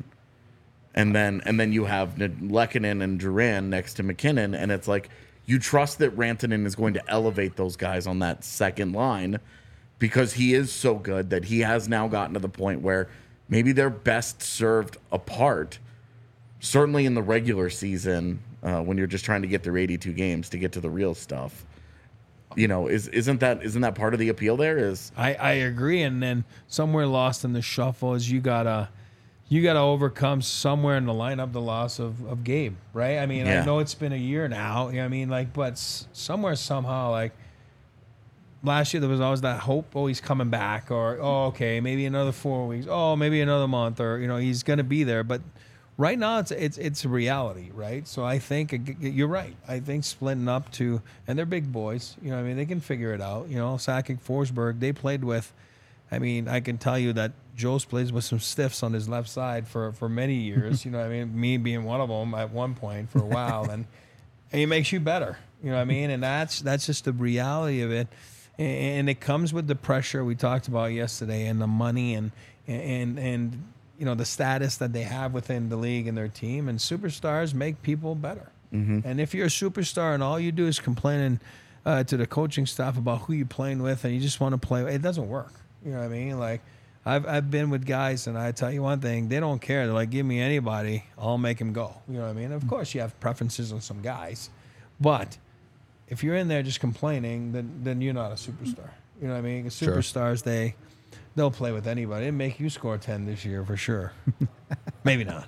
And then and then you have Lehkonen and Duran next to McKinnon, and it's like you trust that Rantanen is going to elevate those guys on that second line because he is so good that he has now gotten to the point where maybe they're best served apart, certainly in the regular season uh, when you're just trying to get through eighty-two games to get to the real stuff. You know, is isn't that isn't that part of the appeal there? Is I, I agree. And then somewhere lost in the shuffle is you gotta you gotta overcome somewhere in the lineup the loss of, of Gabe, right? I mean, Yeah. I know it's been a year now. You know what I mean, like, but s- somewhere somehow, like last year there was always that hope, oh, he's coming back, or oh, okay, maybe another four weeks, oh, maybe another month, or you know, he's gonna be there. But right now it's it's it's a reality, right? So I think ag- you're right. I think splitting up to, and they're big boys, you know what I mean, they can figure it out. You know, Sakic, Forsberg, they played with, I mean, I can tell you that Joe's plays with some stiffs on his left side for, for many years, you know what I mean, me being one of them at one point for a while, and, and it makes you better, you know what I mean, and that's that's just the reality of it, and, and it comes with the pressure we talked about yesterday, and the money, and and and you know, the status that they have within the league and their team, and superstars make people better. Mm-hmm. And if you're a superstar and all you do is complaining uh, to the coaching staff about who you're playing with, and you just want to play, it doesn't work. You know what I mean? Like, I've I've been with guys, and I tell you one thing, they don't care. They're like, give me anybody, I'll make him go. You know what I mean? Of course, you have preferences on some guys, but if you're in there just complaining, then then you're not a superstar. You know what I mean? Sure. Superstars, they they'll play with anybody. They make you score ten this year for sure. Maybe not.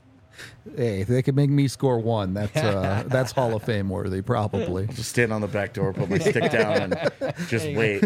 Hey, if they could make me score one, that's uh, that's Hall of Fame worthy, probably. just stand on the back door, put my stick down, and just wait.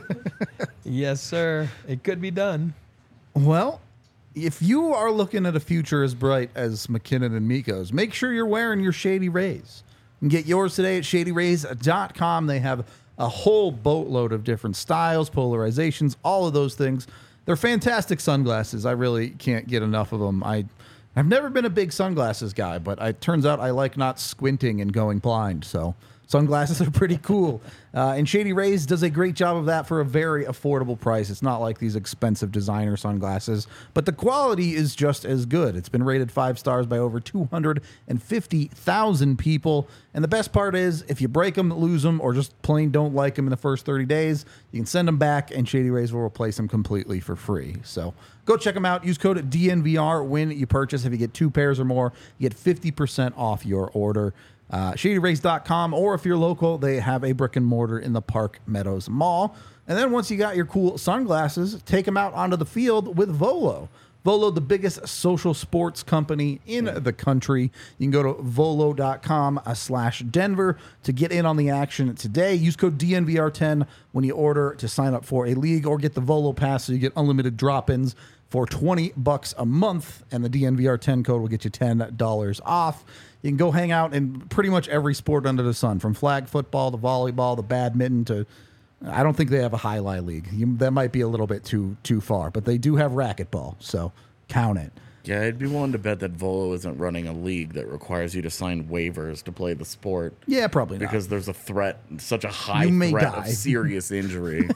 Yes, sir. It could be done. Well, if you are looking at a future as bright as McKinnon and Mikko's, make sure you're wearing your Shady Rays. You can get yours today at shady rays dot com. They have a whole boatload of different styles, polarizations, all of those things. They're fantastic sunglasses. I really can't get enough of them. I, I've never been a big sunglasses guy, but it turns out I like not squinting and going blind, so sunglasses are pretty cool. Uh, and Shady Rays does a great job of that for a very affordable price. It's not like these expensive designer sunglasses, but the quality is just as good. It's been rated five stars by over two hundred fifty thousand people. And the best part is, if you break them, lose them, or just plain don't like them in the first thirty days, you can send them back, and Shady Rays will replace them completely for free. So go check them out. Use code D N V R when you purchase. If you get two pairs or more, you get fifty percent off your order. Uh, shady rays dot com, or if you're local, they have a brick and mortar in the Park Meadows Mall. And then once you got your cool sunglasses, take them out onto the field with Volo. Volo, the biggest social sports company in the country. You can go to volo dot com slash Denver to get in on the action today. Use code D N V R ten when you order to sign up for a league, or get the Volo Pass so you get unlimited drop-ins for twenty bucks a month, and the D N V R ten code will get you ten dollars off. You can go hang out in pretty much every sport under the sun, from flag football to volleyball to badminton to, I don't think they have a highlight league. You, that might be a little bit too too far, but they do have racquetball, so count it. Yeah, I'd be willing to bet that Volo isn't running a league that requires you to sign waivers to play the sport. Yeah, probably not. Because there's a threat, such a high You may threat die. of serious injury.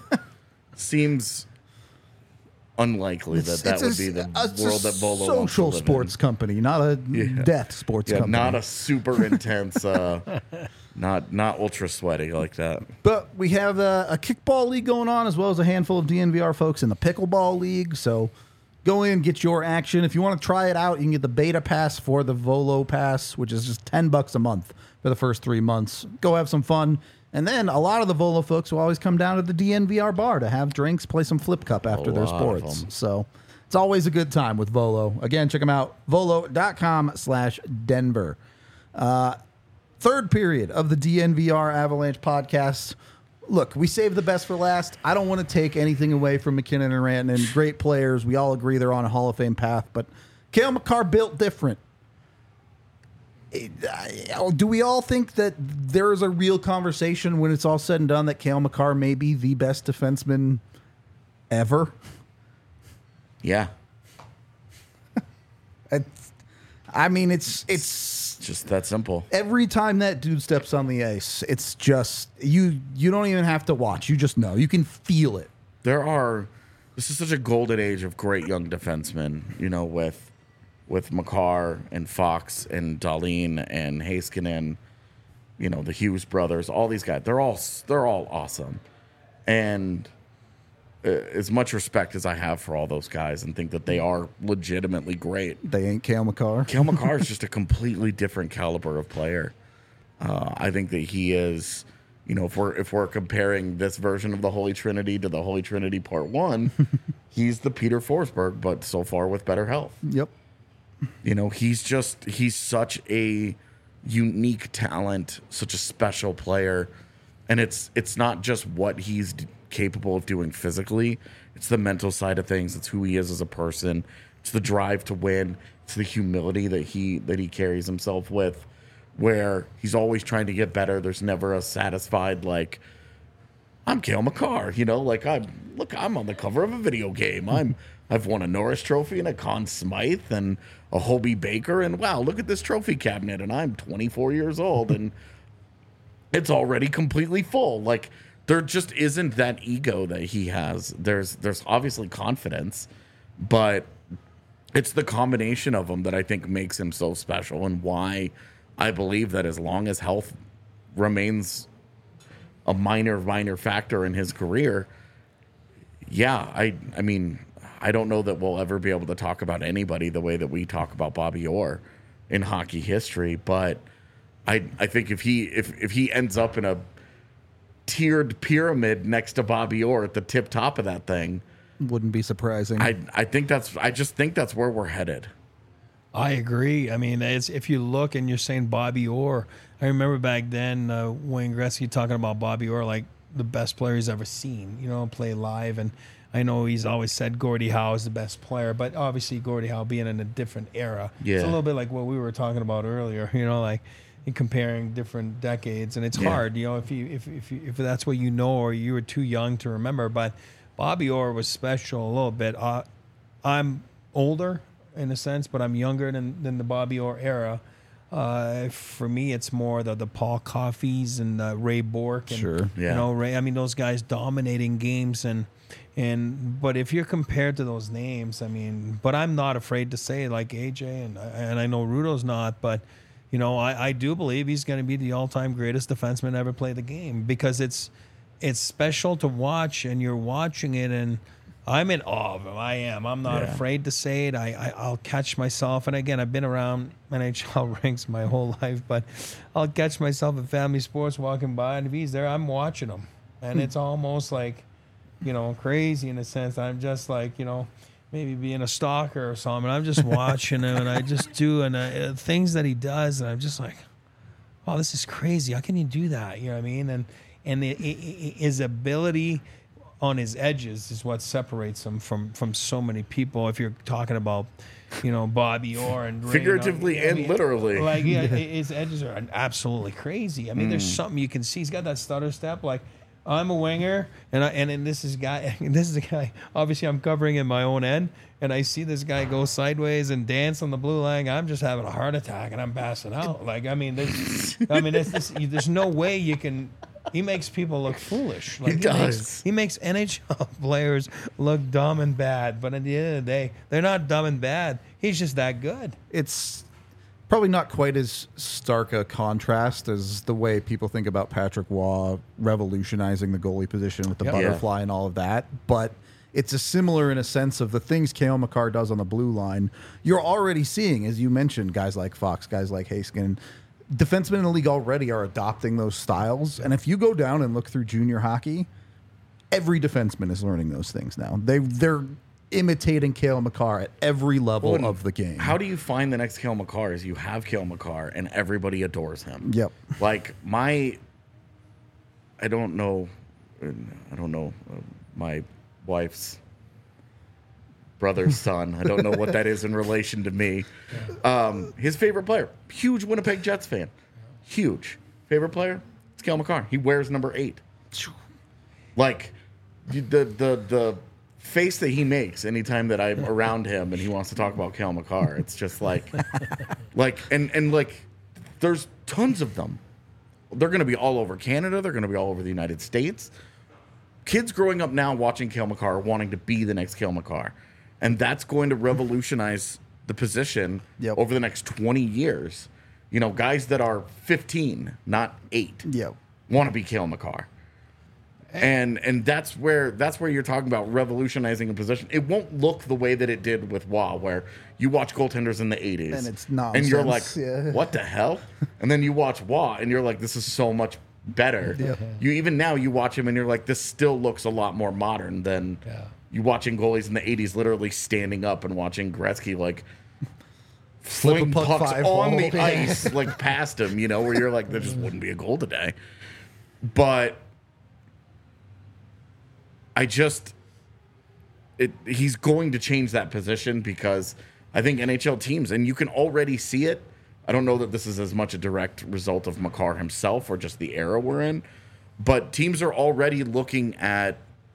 Seems unlikely that that would be the it's world a that Volo wants to social live sports in. company, not a Yeah. death sports Yeah, company. not a super intense, uh, not not ultra sweaty like that. But we have a, a kickball league going on, as well as a handful of D N V R folks in the pickleball league. So go in, get your action. If you want to try it out, you can get the beta pass for the Volo Pass, which is just ten bucks a month for the first three months. Go have some fun. And then a lot of the Volo folks will always come down to the D N V R bar to have drinks, play some flip cup after A their lot of sports. them. So it's always a good time with Volo. Again, check them out, volo dot com slash Denver. Uh, third period of the D N V R Avalanche podcast. Look, we saved the best for last. I don't want to take anything away from McKinnon and Rantanen. Great players. We all agree they're on a Hall of Fame path, but Cale Makar built different. it, uh, do we all think that there is a real conversation when it's all said and done that Cale Makar may be the best defenseman ever? Yeah. It's, I mean, it's it's Just that simple. every time that dude steps on the ice, it's just you. You don't even have to watch; you just know. You can feel it. There are. This is such a golden age of great young defensemen. You know, with with Makar and Fox and Dahlin and Heiskanen. You know, the Hughes brothers. All these guys. They're all they're all awesome, and uh, as much respect as I have for all those guys, and think that they are legitimately great. They ain't Cale Makar. Cale Makar is just a completely different caliber of player. Uh, I think that he is, you know, if we're if we're comparing this version of the Holy Trinity to the Holy Trinity Part One, he's the Peter Forsberg, but so far with better health. Yep. You know, he's just he's such a unique talent, such a special player, and it's it's not just what he's d- capable of doing physically. It's the mental side of things. It's who he is as a person. It's the drive to win. It's the humility that he that he carries himself with, where he's always trying to get better. There's never a satisfied like, I'm Cale Makar, you know, like I'm look, I'm on the cover of a video game. I'm I've won a Norris Trophy and a Conn Smythe and a Hobie Baker, and wow, look at this trophy cabinet, and I'm twenty-four years old and it's already completely full. Like there just isn't that ego that he has. There's there's obviously confidence, but it's the combination of them that I think makes him so special, and why I believe that as long as health remains a minor, minor factor in his career, yeah, I I mean, I don't know that we'll ever be able to talk about anybody the way that we talk about Bobby Orr in hockey history, but I I think if he if if he ends up in a tiered pyramid next to Bobby Orr at the tip top of that thing, Wouldn't be surprising. I I think that's I just think that's where we're headed. I agree. I mean, it's, if you look and you're saying Bobby Orr, I remember back then uh, Wayne Gretzky talking about Bobby Orr like the best player he's ever seen, you know, play live. And I know he's always said Gordie Howe is the best player, but obviously Gordie Howe being in a different era. Yeah. It's a little bit like what we were talking about earlier, you know, like in comparing different decades. And it's Yeah. hard, you know, if you if if, you, if that's what you know or you were too young to remember. But Bobby Orr was special a little bit. Uh, I'm older in a sense, but I'm younger than, than the Bobby Orr era. Uh, for me, it's more the, the Paul Coffeys and uh, Ray Bourque. And, Sure. Yeah. You know, Ray. I mean, those guys dominating games, and and but if you're compared to those names, I mean, but I'm not afraid to say like A J, and and I know Rudo's not, but you know, I, I do believe he's going to be the all-time greatest defenseman to ever play the game, because it's it's special to watch, and you're watching it, and I'm in awe of him. I am. I'm not Yeah. afraid to say it. I, I I'll catch myself, and again, I've been around N H L rinks my whole life, but I'll catch myself at family sports walking by, and if he's there, I'm watching him, and it's almost like, you know, crazy in a sense. I'm just like, you know, maybe being a stalker or something. I'm just watching him, and I just do and uh, things that he does, and I'm just like, oh, this is crazy. How can you do that? You know what I mean? And and the, i- i- his ability on his edges is what separates him from from so many people. If you're talking about, you know, Bobby Orr and Ray, Figuratively you know, I and mean, literally. like yeah, his edges are absolutely crazy. I mean, Mm. there's something you can see. He's got that stutter step. Like, I'm a winger, and I, and then this is guy. This is a guy. Obviously, I'm covering in my own end, and I see this guy go sideways and dance on the blue line. I'm just having a heart attack, and I'm passing out. Like, I mean, there's, I mean, there's, this, there's no way you can. He makes people look foolish. Like, He Makes, does. he makes N H L players look dumb and bad, but at the end of the day, they're not dumb and bad. He's just that good. It's probably not quite as stark a contrast as the way people think about Patrick Waugh revolutionizing the goalie position with the Yep. butterfly and all of that. But it's a similar in a sense of the things Cale Makar does on the blue line. You're already seeing, as you mentioned, guys like Fox, guys like Heiskanen. Defensemen in the league already are adopting those styles. And if you go down and look through junior hockey, every defenseman is learning those things now. They, they're imitating Cale Makar at every level Well, of the game. How do you find the next Cale Makar? Is you have Cale Makar and everybody adores him. Yep. Like my, I don't know, I don't know uh, my wife's brother's son. I don't know what that is in relation to me. Um, his favorite player, huge Winnipeg Jets fan. Huge. Favorite player? It's Cale Makar. He wears number eight. Like, the the the face that he makes anytime that I'm around him and he wants to talk about Cale Makar, it's just like, like, and, and like, there's tons of them. They're going to be all over Canada. They're going to be all over the United States. Kids growing up now watching Cale Makar are wanting to be the next Cale Makar. And that's going to revolutionize the position Yep. over the next twenty years. You know, guys that are fifteen, not eight, Yep. want to be Cale Makar. And and that's where that's where you're talking about revolutionizing a position. It won't look the way that it did with Wah, where you watch goaltenders in the eighties And it's and you're like, nonsense, yeah. what the hell? And then you watch Wah, and you're like, this is so much better. Yeah. You even now you watch him, and you're like, this still looks a lot more modern than Yeah. you watching goalies in the eighties, literally standing up and watching Gretzky like Flip a fling puck pucks five on hole. the Yeah. ice like past him. You know, where you're like, there just wouldn't be a goal today. But I just, it, he's going to change that position because I think N H L teams, and you can already see it. I don't know that this is as much a direct result of Makar himself or just the era we're in, but teams are already looking at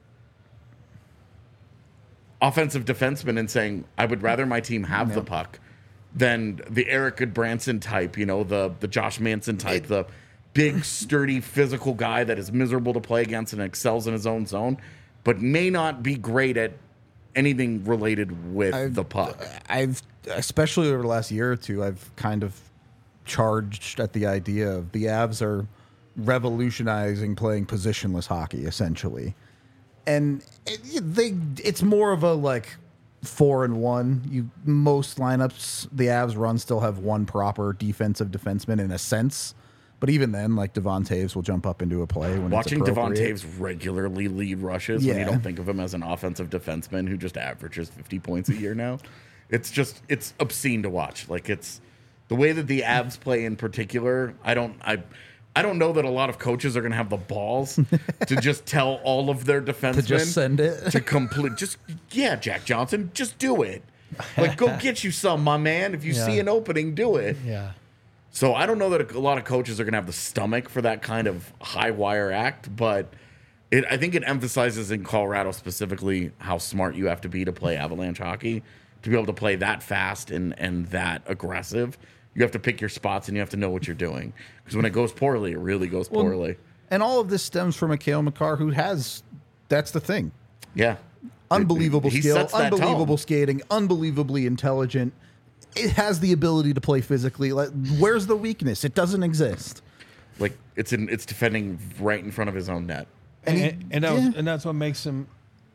offensive defensemen and saying, I would rather my team have the puck than the Eric Goodbranson type, you know, the, the Josh Manson type, the big, sturdy, physical guy that is miserable to play against and excels in his own zone, but may not be great at anything related with I've- the puck. I've, especially over the last year or two, I've kind of charged at the idea of the Avs are revolutionizing playing positionless hockey, essentially. And it, they, it's more of a like four and one. You most lineups the Avs run still have one proper defensive defenseman in a sense, but even then, like Devon Taves will jump up into a play when Watching it's Devon appropriate. Taves regularly lead rushes when you Yeah. don't think of him as an offensive defenseman who just averages fifty points a year now. It's just, it's obscene to watch. Like, it's the way that the Avs play in particular. I don't, I, I don't know that a lot of coaches are going to have the balls to just tell all of their defensemen to just send it. to complete. Just, yeah, Jack Johnson, just do it. Like, go get you some, my man. If you Yeah. see an opening, do it. Yeah. So I don't know that a lot of coaches are going to have the stomach for that kind of high wire act, but it, I think it emphasizes in Colorado specifically how smart you have to be to play Avalanche hockey, to be able to play that fast and, and that aggressive. You have to pick your spots and you have to know what you're doing. Because when it goes poorly, it really goes poorly. And all of this stems from a Cale Makar who has, that's the thing. Yeah. Unbelievable He skill, sets that unbelievable tone. skating, unbelievably intelligent. It has the ability to play physically. Like, where's the weakness? It doesn't exist. Like, it's in, it's defending right in front of his own net. And, he- and, and, that was, yeah. and that's what makes him,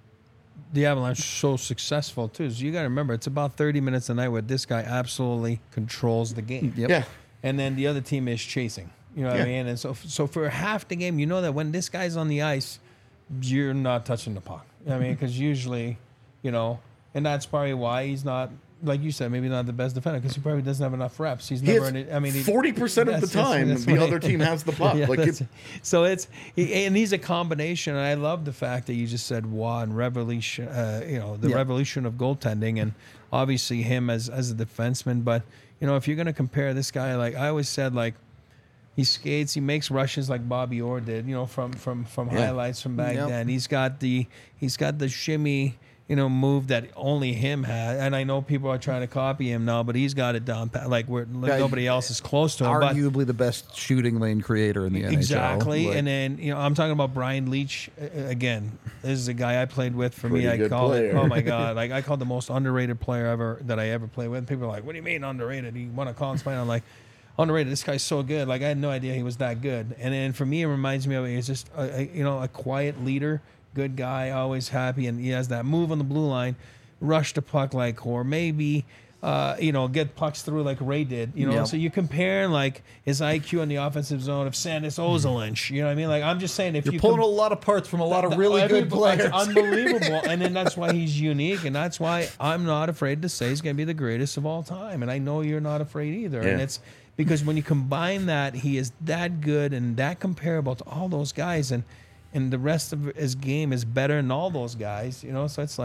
the Avalanche, so successful too. So you got to remember, it's about thirty minutes a night where this guy absolutely controls the game. Yep. Yeah. And then the other team is chasing. You know what Yeah. I mean? And so, so for half the game, you know that when this guy's on the ice, you're not touching the puck. You know what I mean? Because usually, you know, and that's probably why he's not, like you said, maybe not the best defender because he probably doesn't have enough reps. He's He never. has in it- I mean, he- forty percent of the that's- that's- time, that's the what I- other team has the puck. Yeah, like, that's- it, so it's he, and he's a combination. And I love the fact that you just said Wah and revolution. Uh, you know, the Yeah. revolution of goaltending, and obviously him as as a defenseman. But you know, if you're going to compare this guy, like I always said, like he skates, he makes rushes like Bobby Orr did. You know, from from from Yeah. highlights from back Yep. then. He's got the he's got the shimmy. You know, move that only him had, and I know people are trying to copy him now, but he's got it down pat- like where Yeah, nobody else is close to him. But Arguably the best shooting lane creator in the N H L. exactly, Like, and then you know I'm talking about Brian Leach uh, again. This is a guy I played with. For me, Pretty I good call it. player. Oh my god! Like I called the most underrated player ever that I ever played with. People are like, "What do you mean underrated?" He won a Collins final. I'm like, underrated. This guy's so good. Like I had no idea he was that good. And then for me, it reminds me of he's just a, a, you know a quiet leader, good guy, always happy, and he has that move on the blue line, rush the puck like, or maybe. Uh, you know, get pucks through like Ray did. You know, Yep. so you compare like his I Q in the offensive zone of Sandis Ozolinsh. You know what I mean? Like I'm just saying, if You're you pulling com- a lot of parts from a lot of that- really every- good players. It's unbelievable, and then that's why he's unique, and that's why I'm not afraid to say he's going to be the greatest of all time, and I know you're not afraid either. And Yeah. it's because when you combine that, he is that good and that comparable to all those guys, and and the rest of his game is better than all those guys. You know, so it's like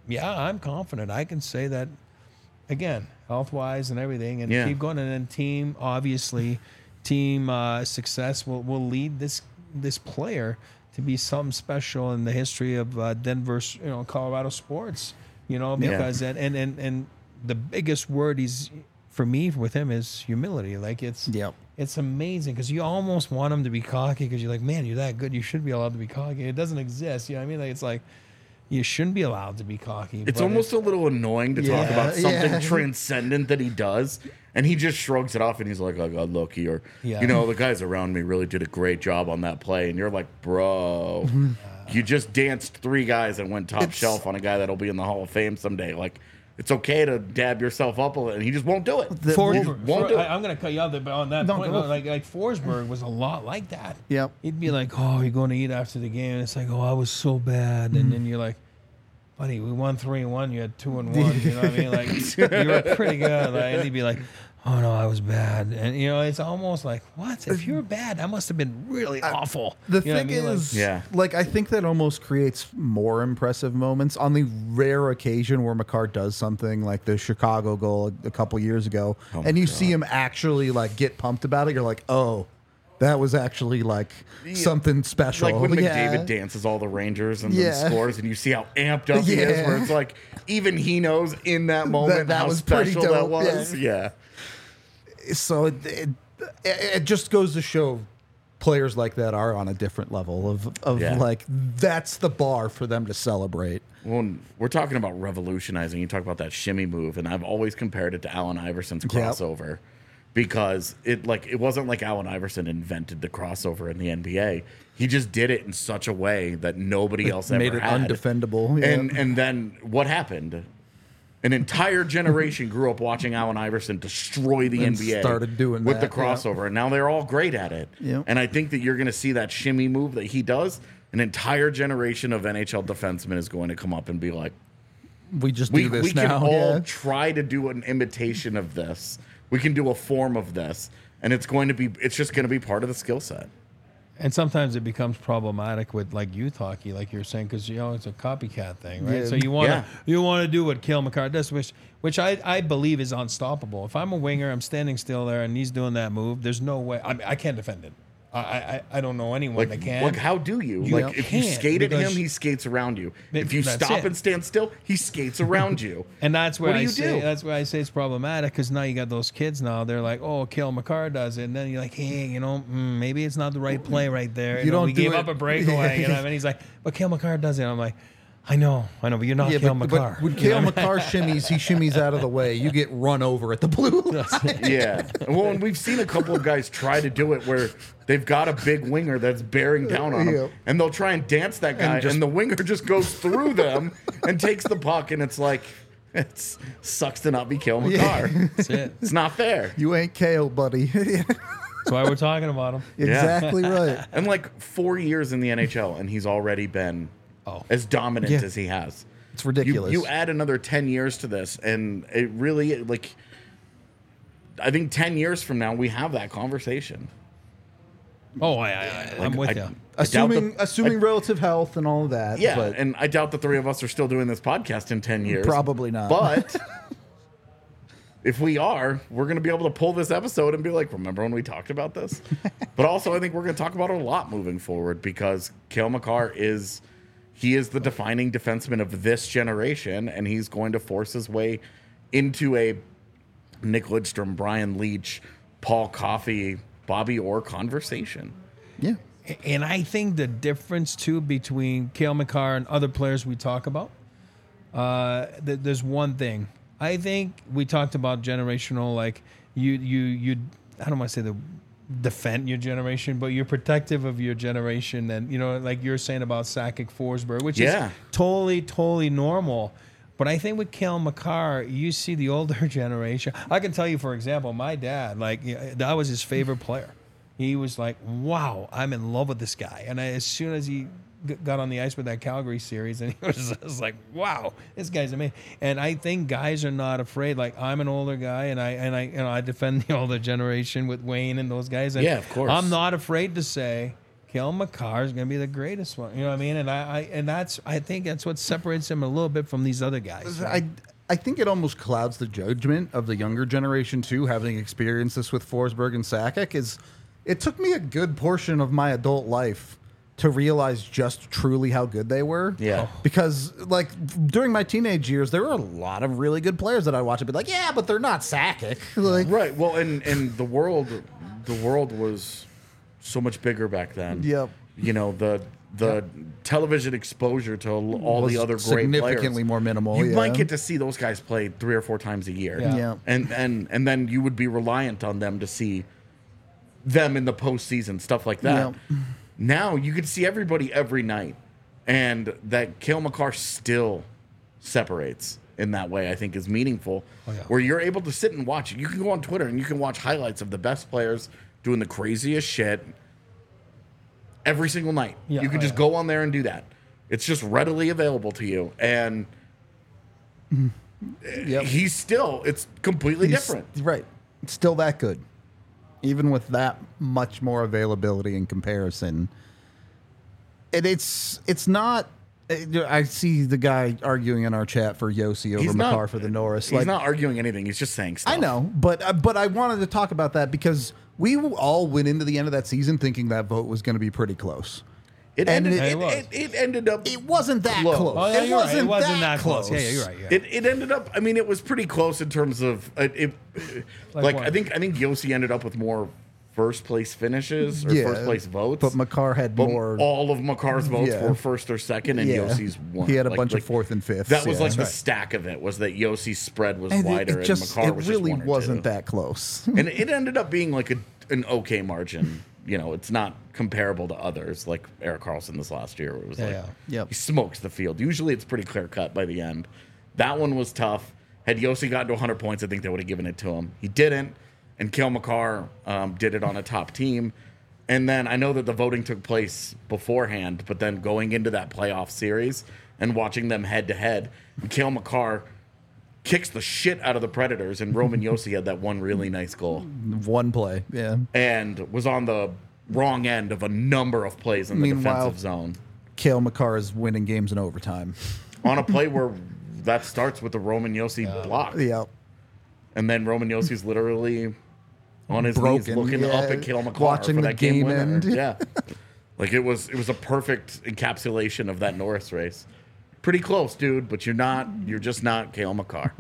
yeah, I'm confident. I can say that again, health wise and everything, and Yeah. keep going. And then team, obviously, team uh, success will, will lead this this player to be something special in the history of uh, Denver's, you know, Colorado sports. You know, because and, and and and the biggest word he's for me with him is humility. Like it's Yep. it's amazing because you almost want him to be cocky because you're like, man, you're that good. You should be allowed to be cocky. It doesn't exist. You know what I mean? Like it's like you shouldn't be allowed to be cocky. It's but almost a little annoying to talk Yeah, about something yeah. transcendent that he does, and he just shrugs it off and he's like, "I got lucky," or Yeah. you know, the guys around me really did a great job on that play, and you're like, "Bro, you just danced three guys and went top It's- shelf on a guy that'll be in the Hall of Fame someday." Like, it's okay to dab yourself up a little, and he just won't do it. The- Forsberg, He won't do For- it. I, I'm going to cut you out there, but on that No, point, go. like like Forsberg was a lot like that. Yep. He'd be like, "Oh, you're going to eat after the game," and it's like, "Oh, I was so bad," and then you're like, "Buddy, we won three and one. You had two and one. You know what I mean? Like you were pretty good." Like, and he'd be like, "Oh no, I was bad," and you know, it's almost like, "What? If you're bad, that must have been really awful." The You know what I thing mean? Like, is, Yeah. like I think that almost creates more impressive moments on the rare occasion where McCarr does something like the Chicago goal a, a couple years ago, Oh and my you God. see him actually like get pumped about it. You're like, oh, that was actually like something special. Like when Yeah. McDavid dances all the Rangers and Yeah. then scores, and you see how amped up he is, Yeah. where it's like even he knows in that moment that how was pretty special that dope, was. yeah. Yeah. So it, it it just goes to show players like that are on a different level of of Yeah. like that's the bar for them to celebrate. Well, we're talking about revolutionizing. You talk about that shimmy move, and I've always compared it to Allen Iverson's Yep. crossover because it like it wasn't like Allen Iverson invented the crossover in the N B A. He just did it in such a way that nobody else Made ever it had. undefendable. Yeah. And and then what happened? An entire generation grew up watching Allen Iverson destroy the And N B A. started doing with that, the crossover, and now they're all great at it. Yep. And I think that you're going to see that shimmy move that he does. An entire generation of N H L defensemen is going to come up and be like, we just "We do this we can now. all yeah. try to do an imitation of this. We can do a form of this, and it's going to be. It's just going to be part of the skill set." And sometimes it becomes problematic with like youth hockey, like you're saying, because you know it's a copycat thing, right? Yeah. So you want to Yeah. you want to do what Cale Makar does, which which I, I believe is unstoppable. If I'm a winger, I'm standing still there, and he's doing that move. There's no way I, mean, I can't defend it. I, I I don't know anyone Like, that can. like, how do you? You like, if you can't, skate at him, because- he skates around you. But If you that's stop it. and stand still, he skates around you. And that's where What do I you say do? that's where I say it's problematic because now you got those kids now. They're like, oh, Cale Makar does it, and then you're like, hey, you know, mm, maybe it's not the right play right there. You, You know, don't we do gave it- up a breakaway, you know. And he's like, but Cale Makar does it. I'm like, I know, I know, but you're not Yeah, Cale but, Makar. but when You know Cale what I mean? Makar shimmies, he shimmies out of the way. You get run over at the blue line. Yeah. Well, and we've seen a couple of guys try to do it where they've got a big winger that's bearing down on them, Yeah. and they'll try and dance that guy, and, And just- the winger just goes through them and takes the puck, and it's like, it sucks to not be Cale Makar. Yeah. That's it. It's not fair. You ain't Kale, buddy. That's why we're talking about him. Exactly right. And like four years in the N H L, and he's already been Oh. as dominant Yeah. as he has. It's You, ridiculous. you add another ten years to this, and it really, like, I think ten years from now, we have that conversation. Oh, I, I, I, I'm Like, with I- you. I doubt assuming the- assuming I- relative health and all of that. Yeah, but and I doubt the three of us are still doing this podcast in ten years. Probably not. But if we are, we're going to be able to pull this episode and be like, remember when we talked about this? But also, I think we're going to talk about it a lot moving forward because Cale Makar is, he is the defining defenseman of this generation, and he's going to force his way into a Nick Lidstrom, Brian Leach, Paul Coffey, Bobby Orr conversation. yeah. And I think the difference too between Cale Makar and other players we talk about, uh, th- there's one thing. I think we talked about generational, like you, you, you. I don't want to say the defend your generation, but you're protective of your generation, and you know, like you're saying about Sakic, Forsberg, which Yeah. is totally, totally normal. But I think with Cale Makar, you see the older generation. I can tell you, for example, my dad, like yeah, that was his favorite player. He was like, wow, I'm in love with this guy. And I, as soon as he g- got on the ice with that Calgary series, and he was just like, wow, this guy's amazing. And I think guys are not afraid. Like I'm an older guy, and I and I you know I defend the older generation with Wayne and those guys. And Yeah, of course. I'm not afraid to say, Kale McCarr is going to be the greatest one. You know what I mean? And I, I and that's I think that's what separates him a little bit from these other guys. I I think it almost clouds the judgment of the younger generation too, having experienced this with Forsberg and Sakic. Is it took me a good portion of my adult life to realize just truly how good they were. Yeah. Because like during my teenage years, there were a lot of really good players that I watched and be like, yeah, but they're not Sakic. Like, Right. Well, and and the world, the world was so much bigger back then. Yep. You know, the the television exposure to all was the other great significantly players. more minimal. You yeah. might get to see those guys play three or four times a year. Yeah. Yeah. And and and then you would be reliant on them to see them in the postseason, stuff like that. Yeah. Now you get to see everybody every night. And that Cale Makar still separates in that way, I think is meaningful. Oh, yeah. Where you're able to sit and watch it. You can go on Twitter and you can watch highlights of the best players doing the craziest shit every single night. Yeah, you can oh, just yeah. go on there and do that. It's just readily available to you. And Yep. he's still, it's completely He's- different. Right. It's still that good. Even with that much more availability in comparison. And it's it's not I see the guy arguing in our chat for Yossi over He's not- Makar for the Norris. He's not arguing anything. He's just saying stuff. I know, but uh, but I wanted to talk about that because we all went into the end of that season thinking that vote was going to be pretty close. It And ended, it- it, It was. it, it ended up. It wasn't that Close. close. Oh, yeah, it, you're right. wasn't It wasn't that that close. Yeah, yeah, you're right. Yeah. It, it ended up. I mean, it was pretty close in terms of uh, it. Like Like, what? I think I think Yossi ended up with more first place finishes or Yeah, first place votes, But Makar had But more. all of Makar's votes Yeah. were first or second, and Yeah. Yossi's one. He had a Like- bunch like, of fourth and fifth. That was like the right. stack of it. Was that Yossi's spread was And it- wider it just and Makar it was really just one or wasn't two. that close. And it ended up being like a an okay margin. You know, it's not comparable to others like Eric Carlson this last year, where it was Yeah, like yeah. Yep. he smokes the field. Usually, it's pretty clear cut by the end. That one was tough. Had Yossi gotten to one hundred points, I think they would have given it to him. He didn't, and Cale Makar um, did it on a top team. And then I know that the voting took place beforehand, but then going into that playoff series and watching them head to head, Cale Makar kicks the shit out of the Predators, and Roman Yossi had that one really nice goal One play. Yeah. and was on the wrong end of a number of plays in the Meanwhile- defensive zone. Kale Makar is winning games in overtime. On a play where that starts with the Roman Yossi block. Yeah. And then Roman Yossi's literally on his Broken, knees looking yeah. up at Cale Makar Watching for the that game, game winner. end. Yeah. Like it was it was a perfect encapsulation of that Norris race. Pretty close, dude, but you're not you're just not Cale Makar.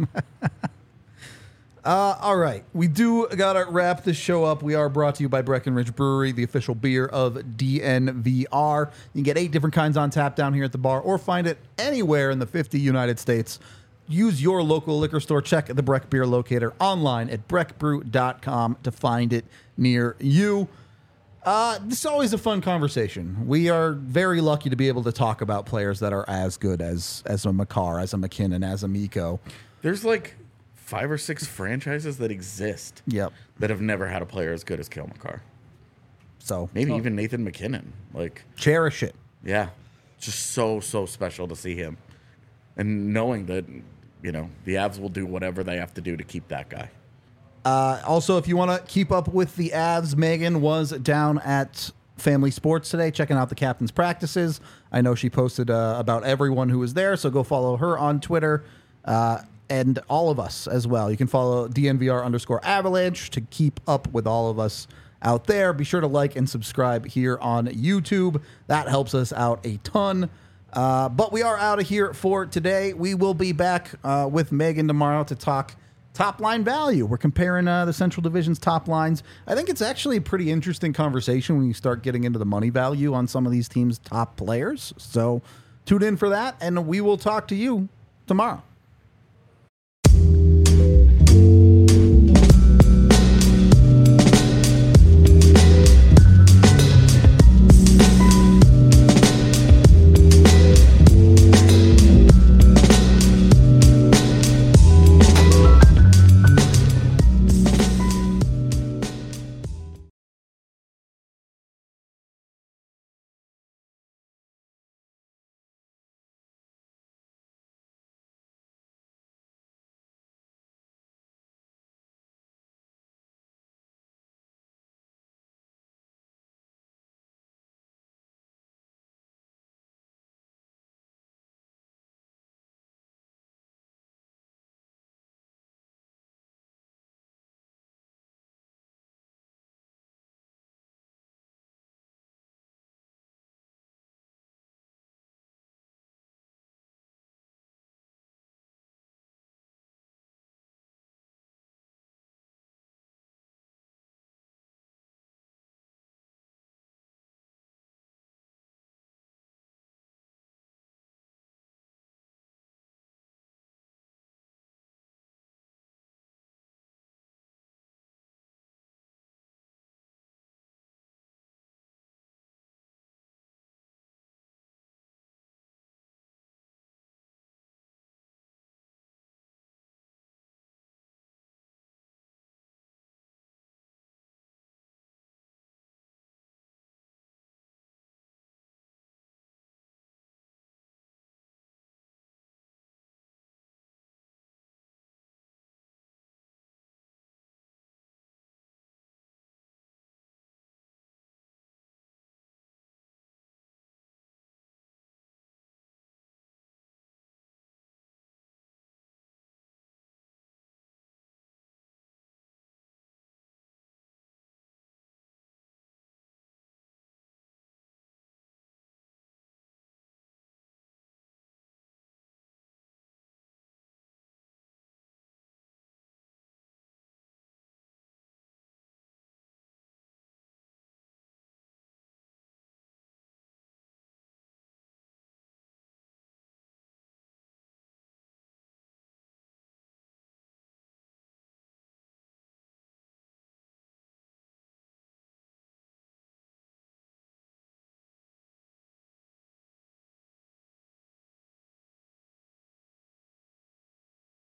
Uh, all right. We do got to wrap this show up. We are brought to you by Breckenridge Brewery, the official beer of D N V R. You can get eight different kinds on tap down here at the bar or find it anywhere in the fifty United States. Use your local liquor store. Check the Breck Beer Locator online at breck brew dot com to find it near you. Uh, this is always a fun conversation. We are very lucky to be able to talk about players that are as good as as a Makar, as a McKinnon, as a Mikko. There's like five or six franchises that exist Yep. that have never had a player as good as Cale Makar. So Maybe even Nathan McKinnon. Like cherish it. Yeah. Just so, so special to see him. And knowing that, you know, the Avs will do whatever they have to do to keep that guy. Uh, also, if you want to keep up with the Avs, Megan was down at Family Sports today checking out the captain's practices. I know she posted uh, about everyone who was there, so go follow her on Twitter uh, and all of us as well. You can follow D N V R underscore Avalanche to keep up with all of us out there. Be sure to like and subscribe here on YouTube. That helps us out a ton. Uh, but we are out of here for today. We will be back uh, with Megan tomorrow to talk top line value. We're comparing uh, the Central Division's top lines. I think it's actually a pretty interesting conversation when you start getting into the money value on some of these teams' top players. So tune in for that, and we will talk to you tomorrow.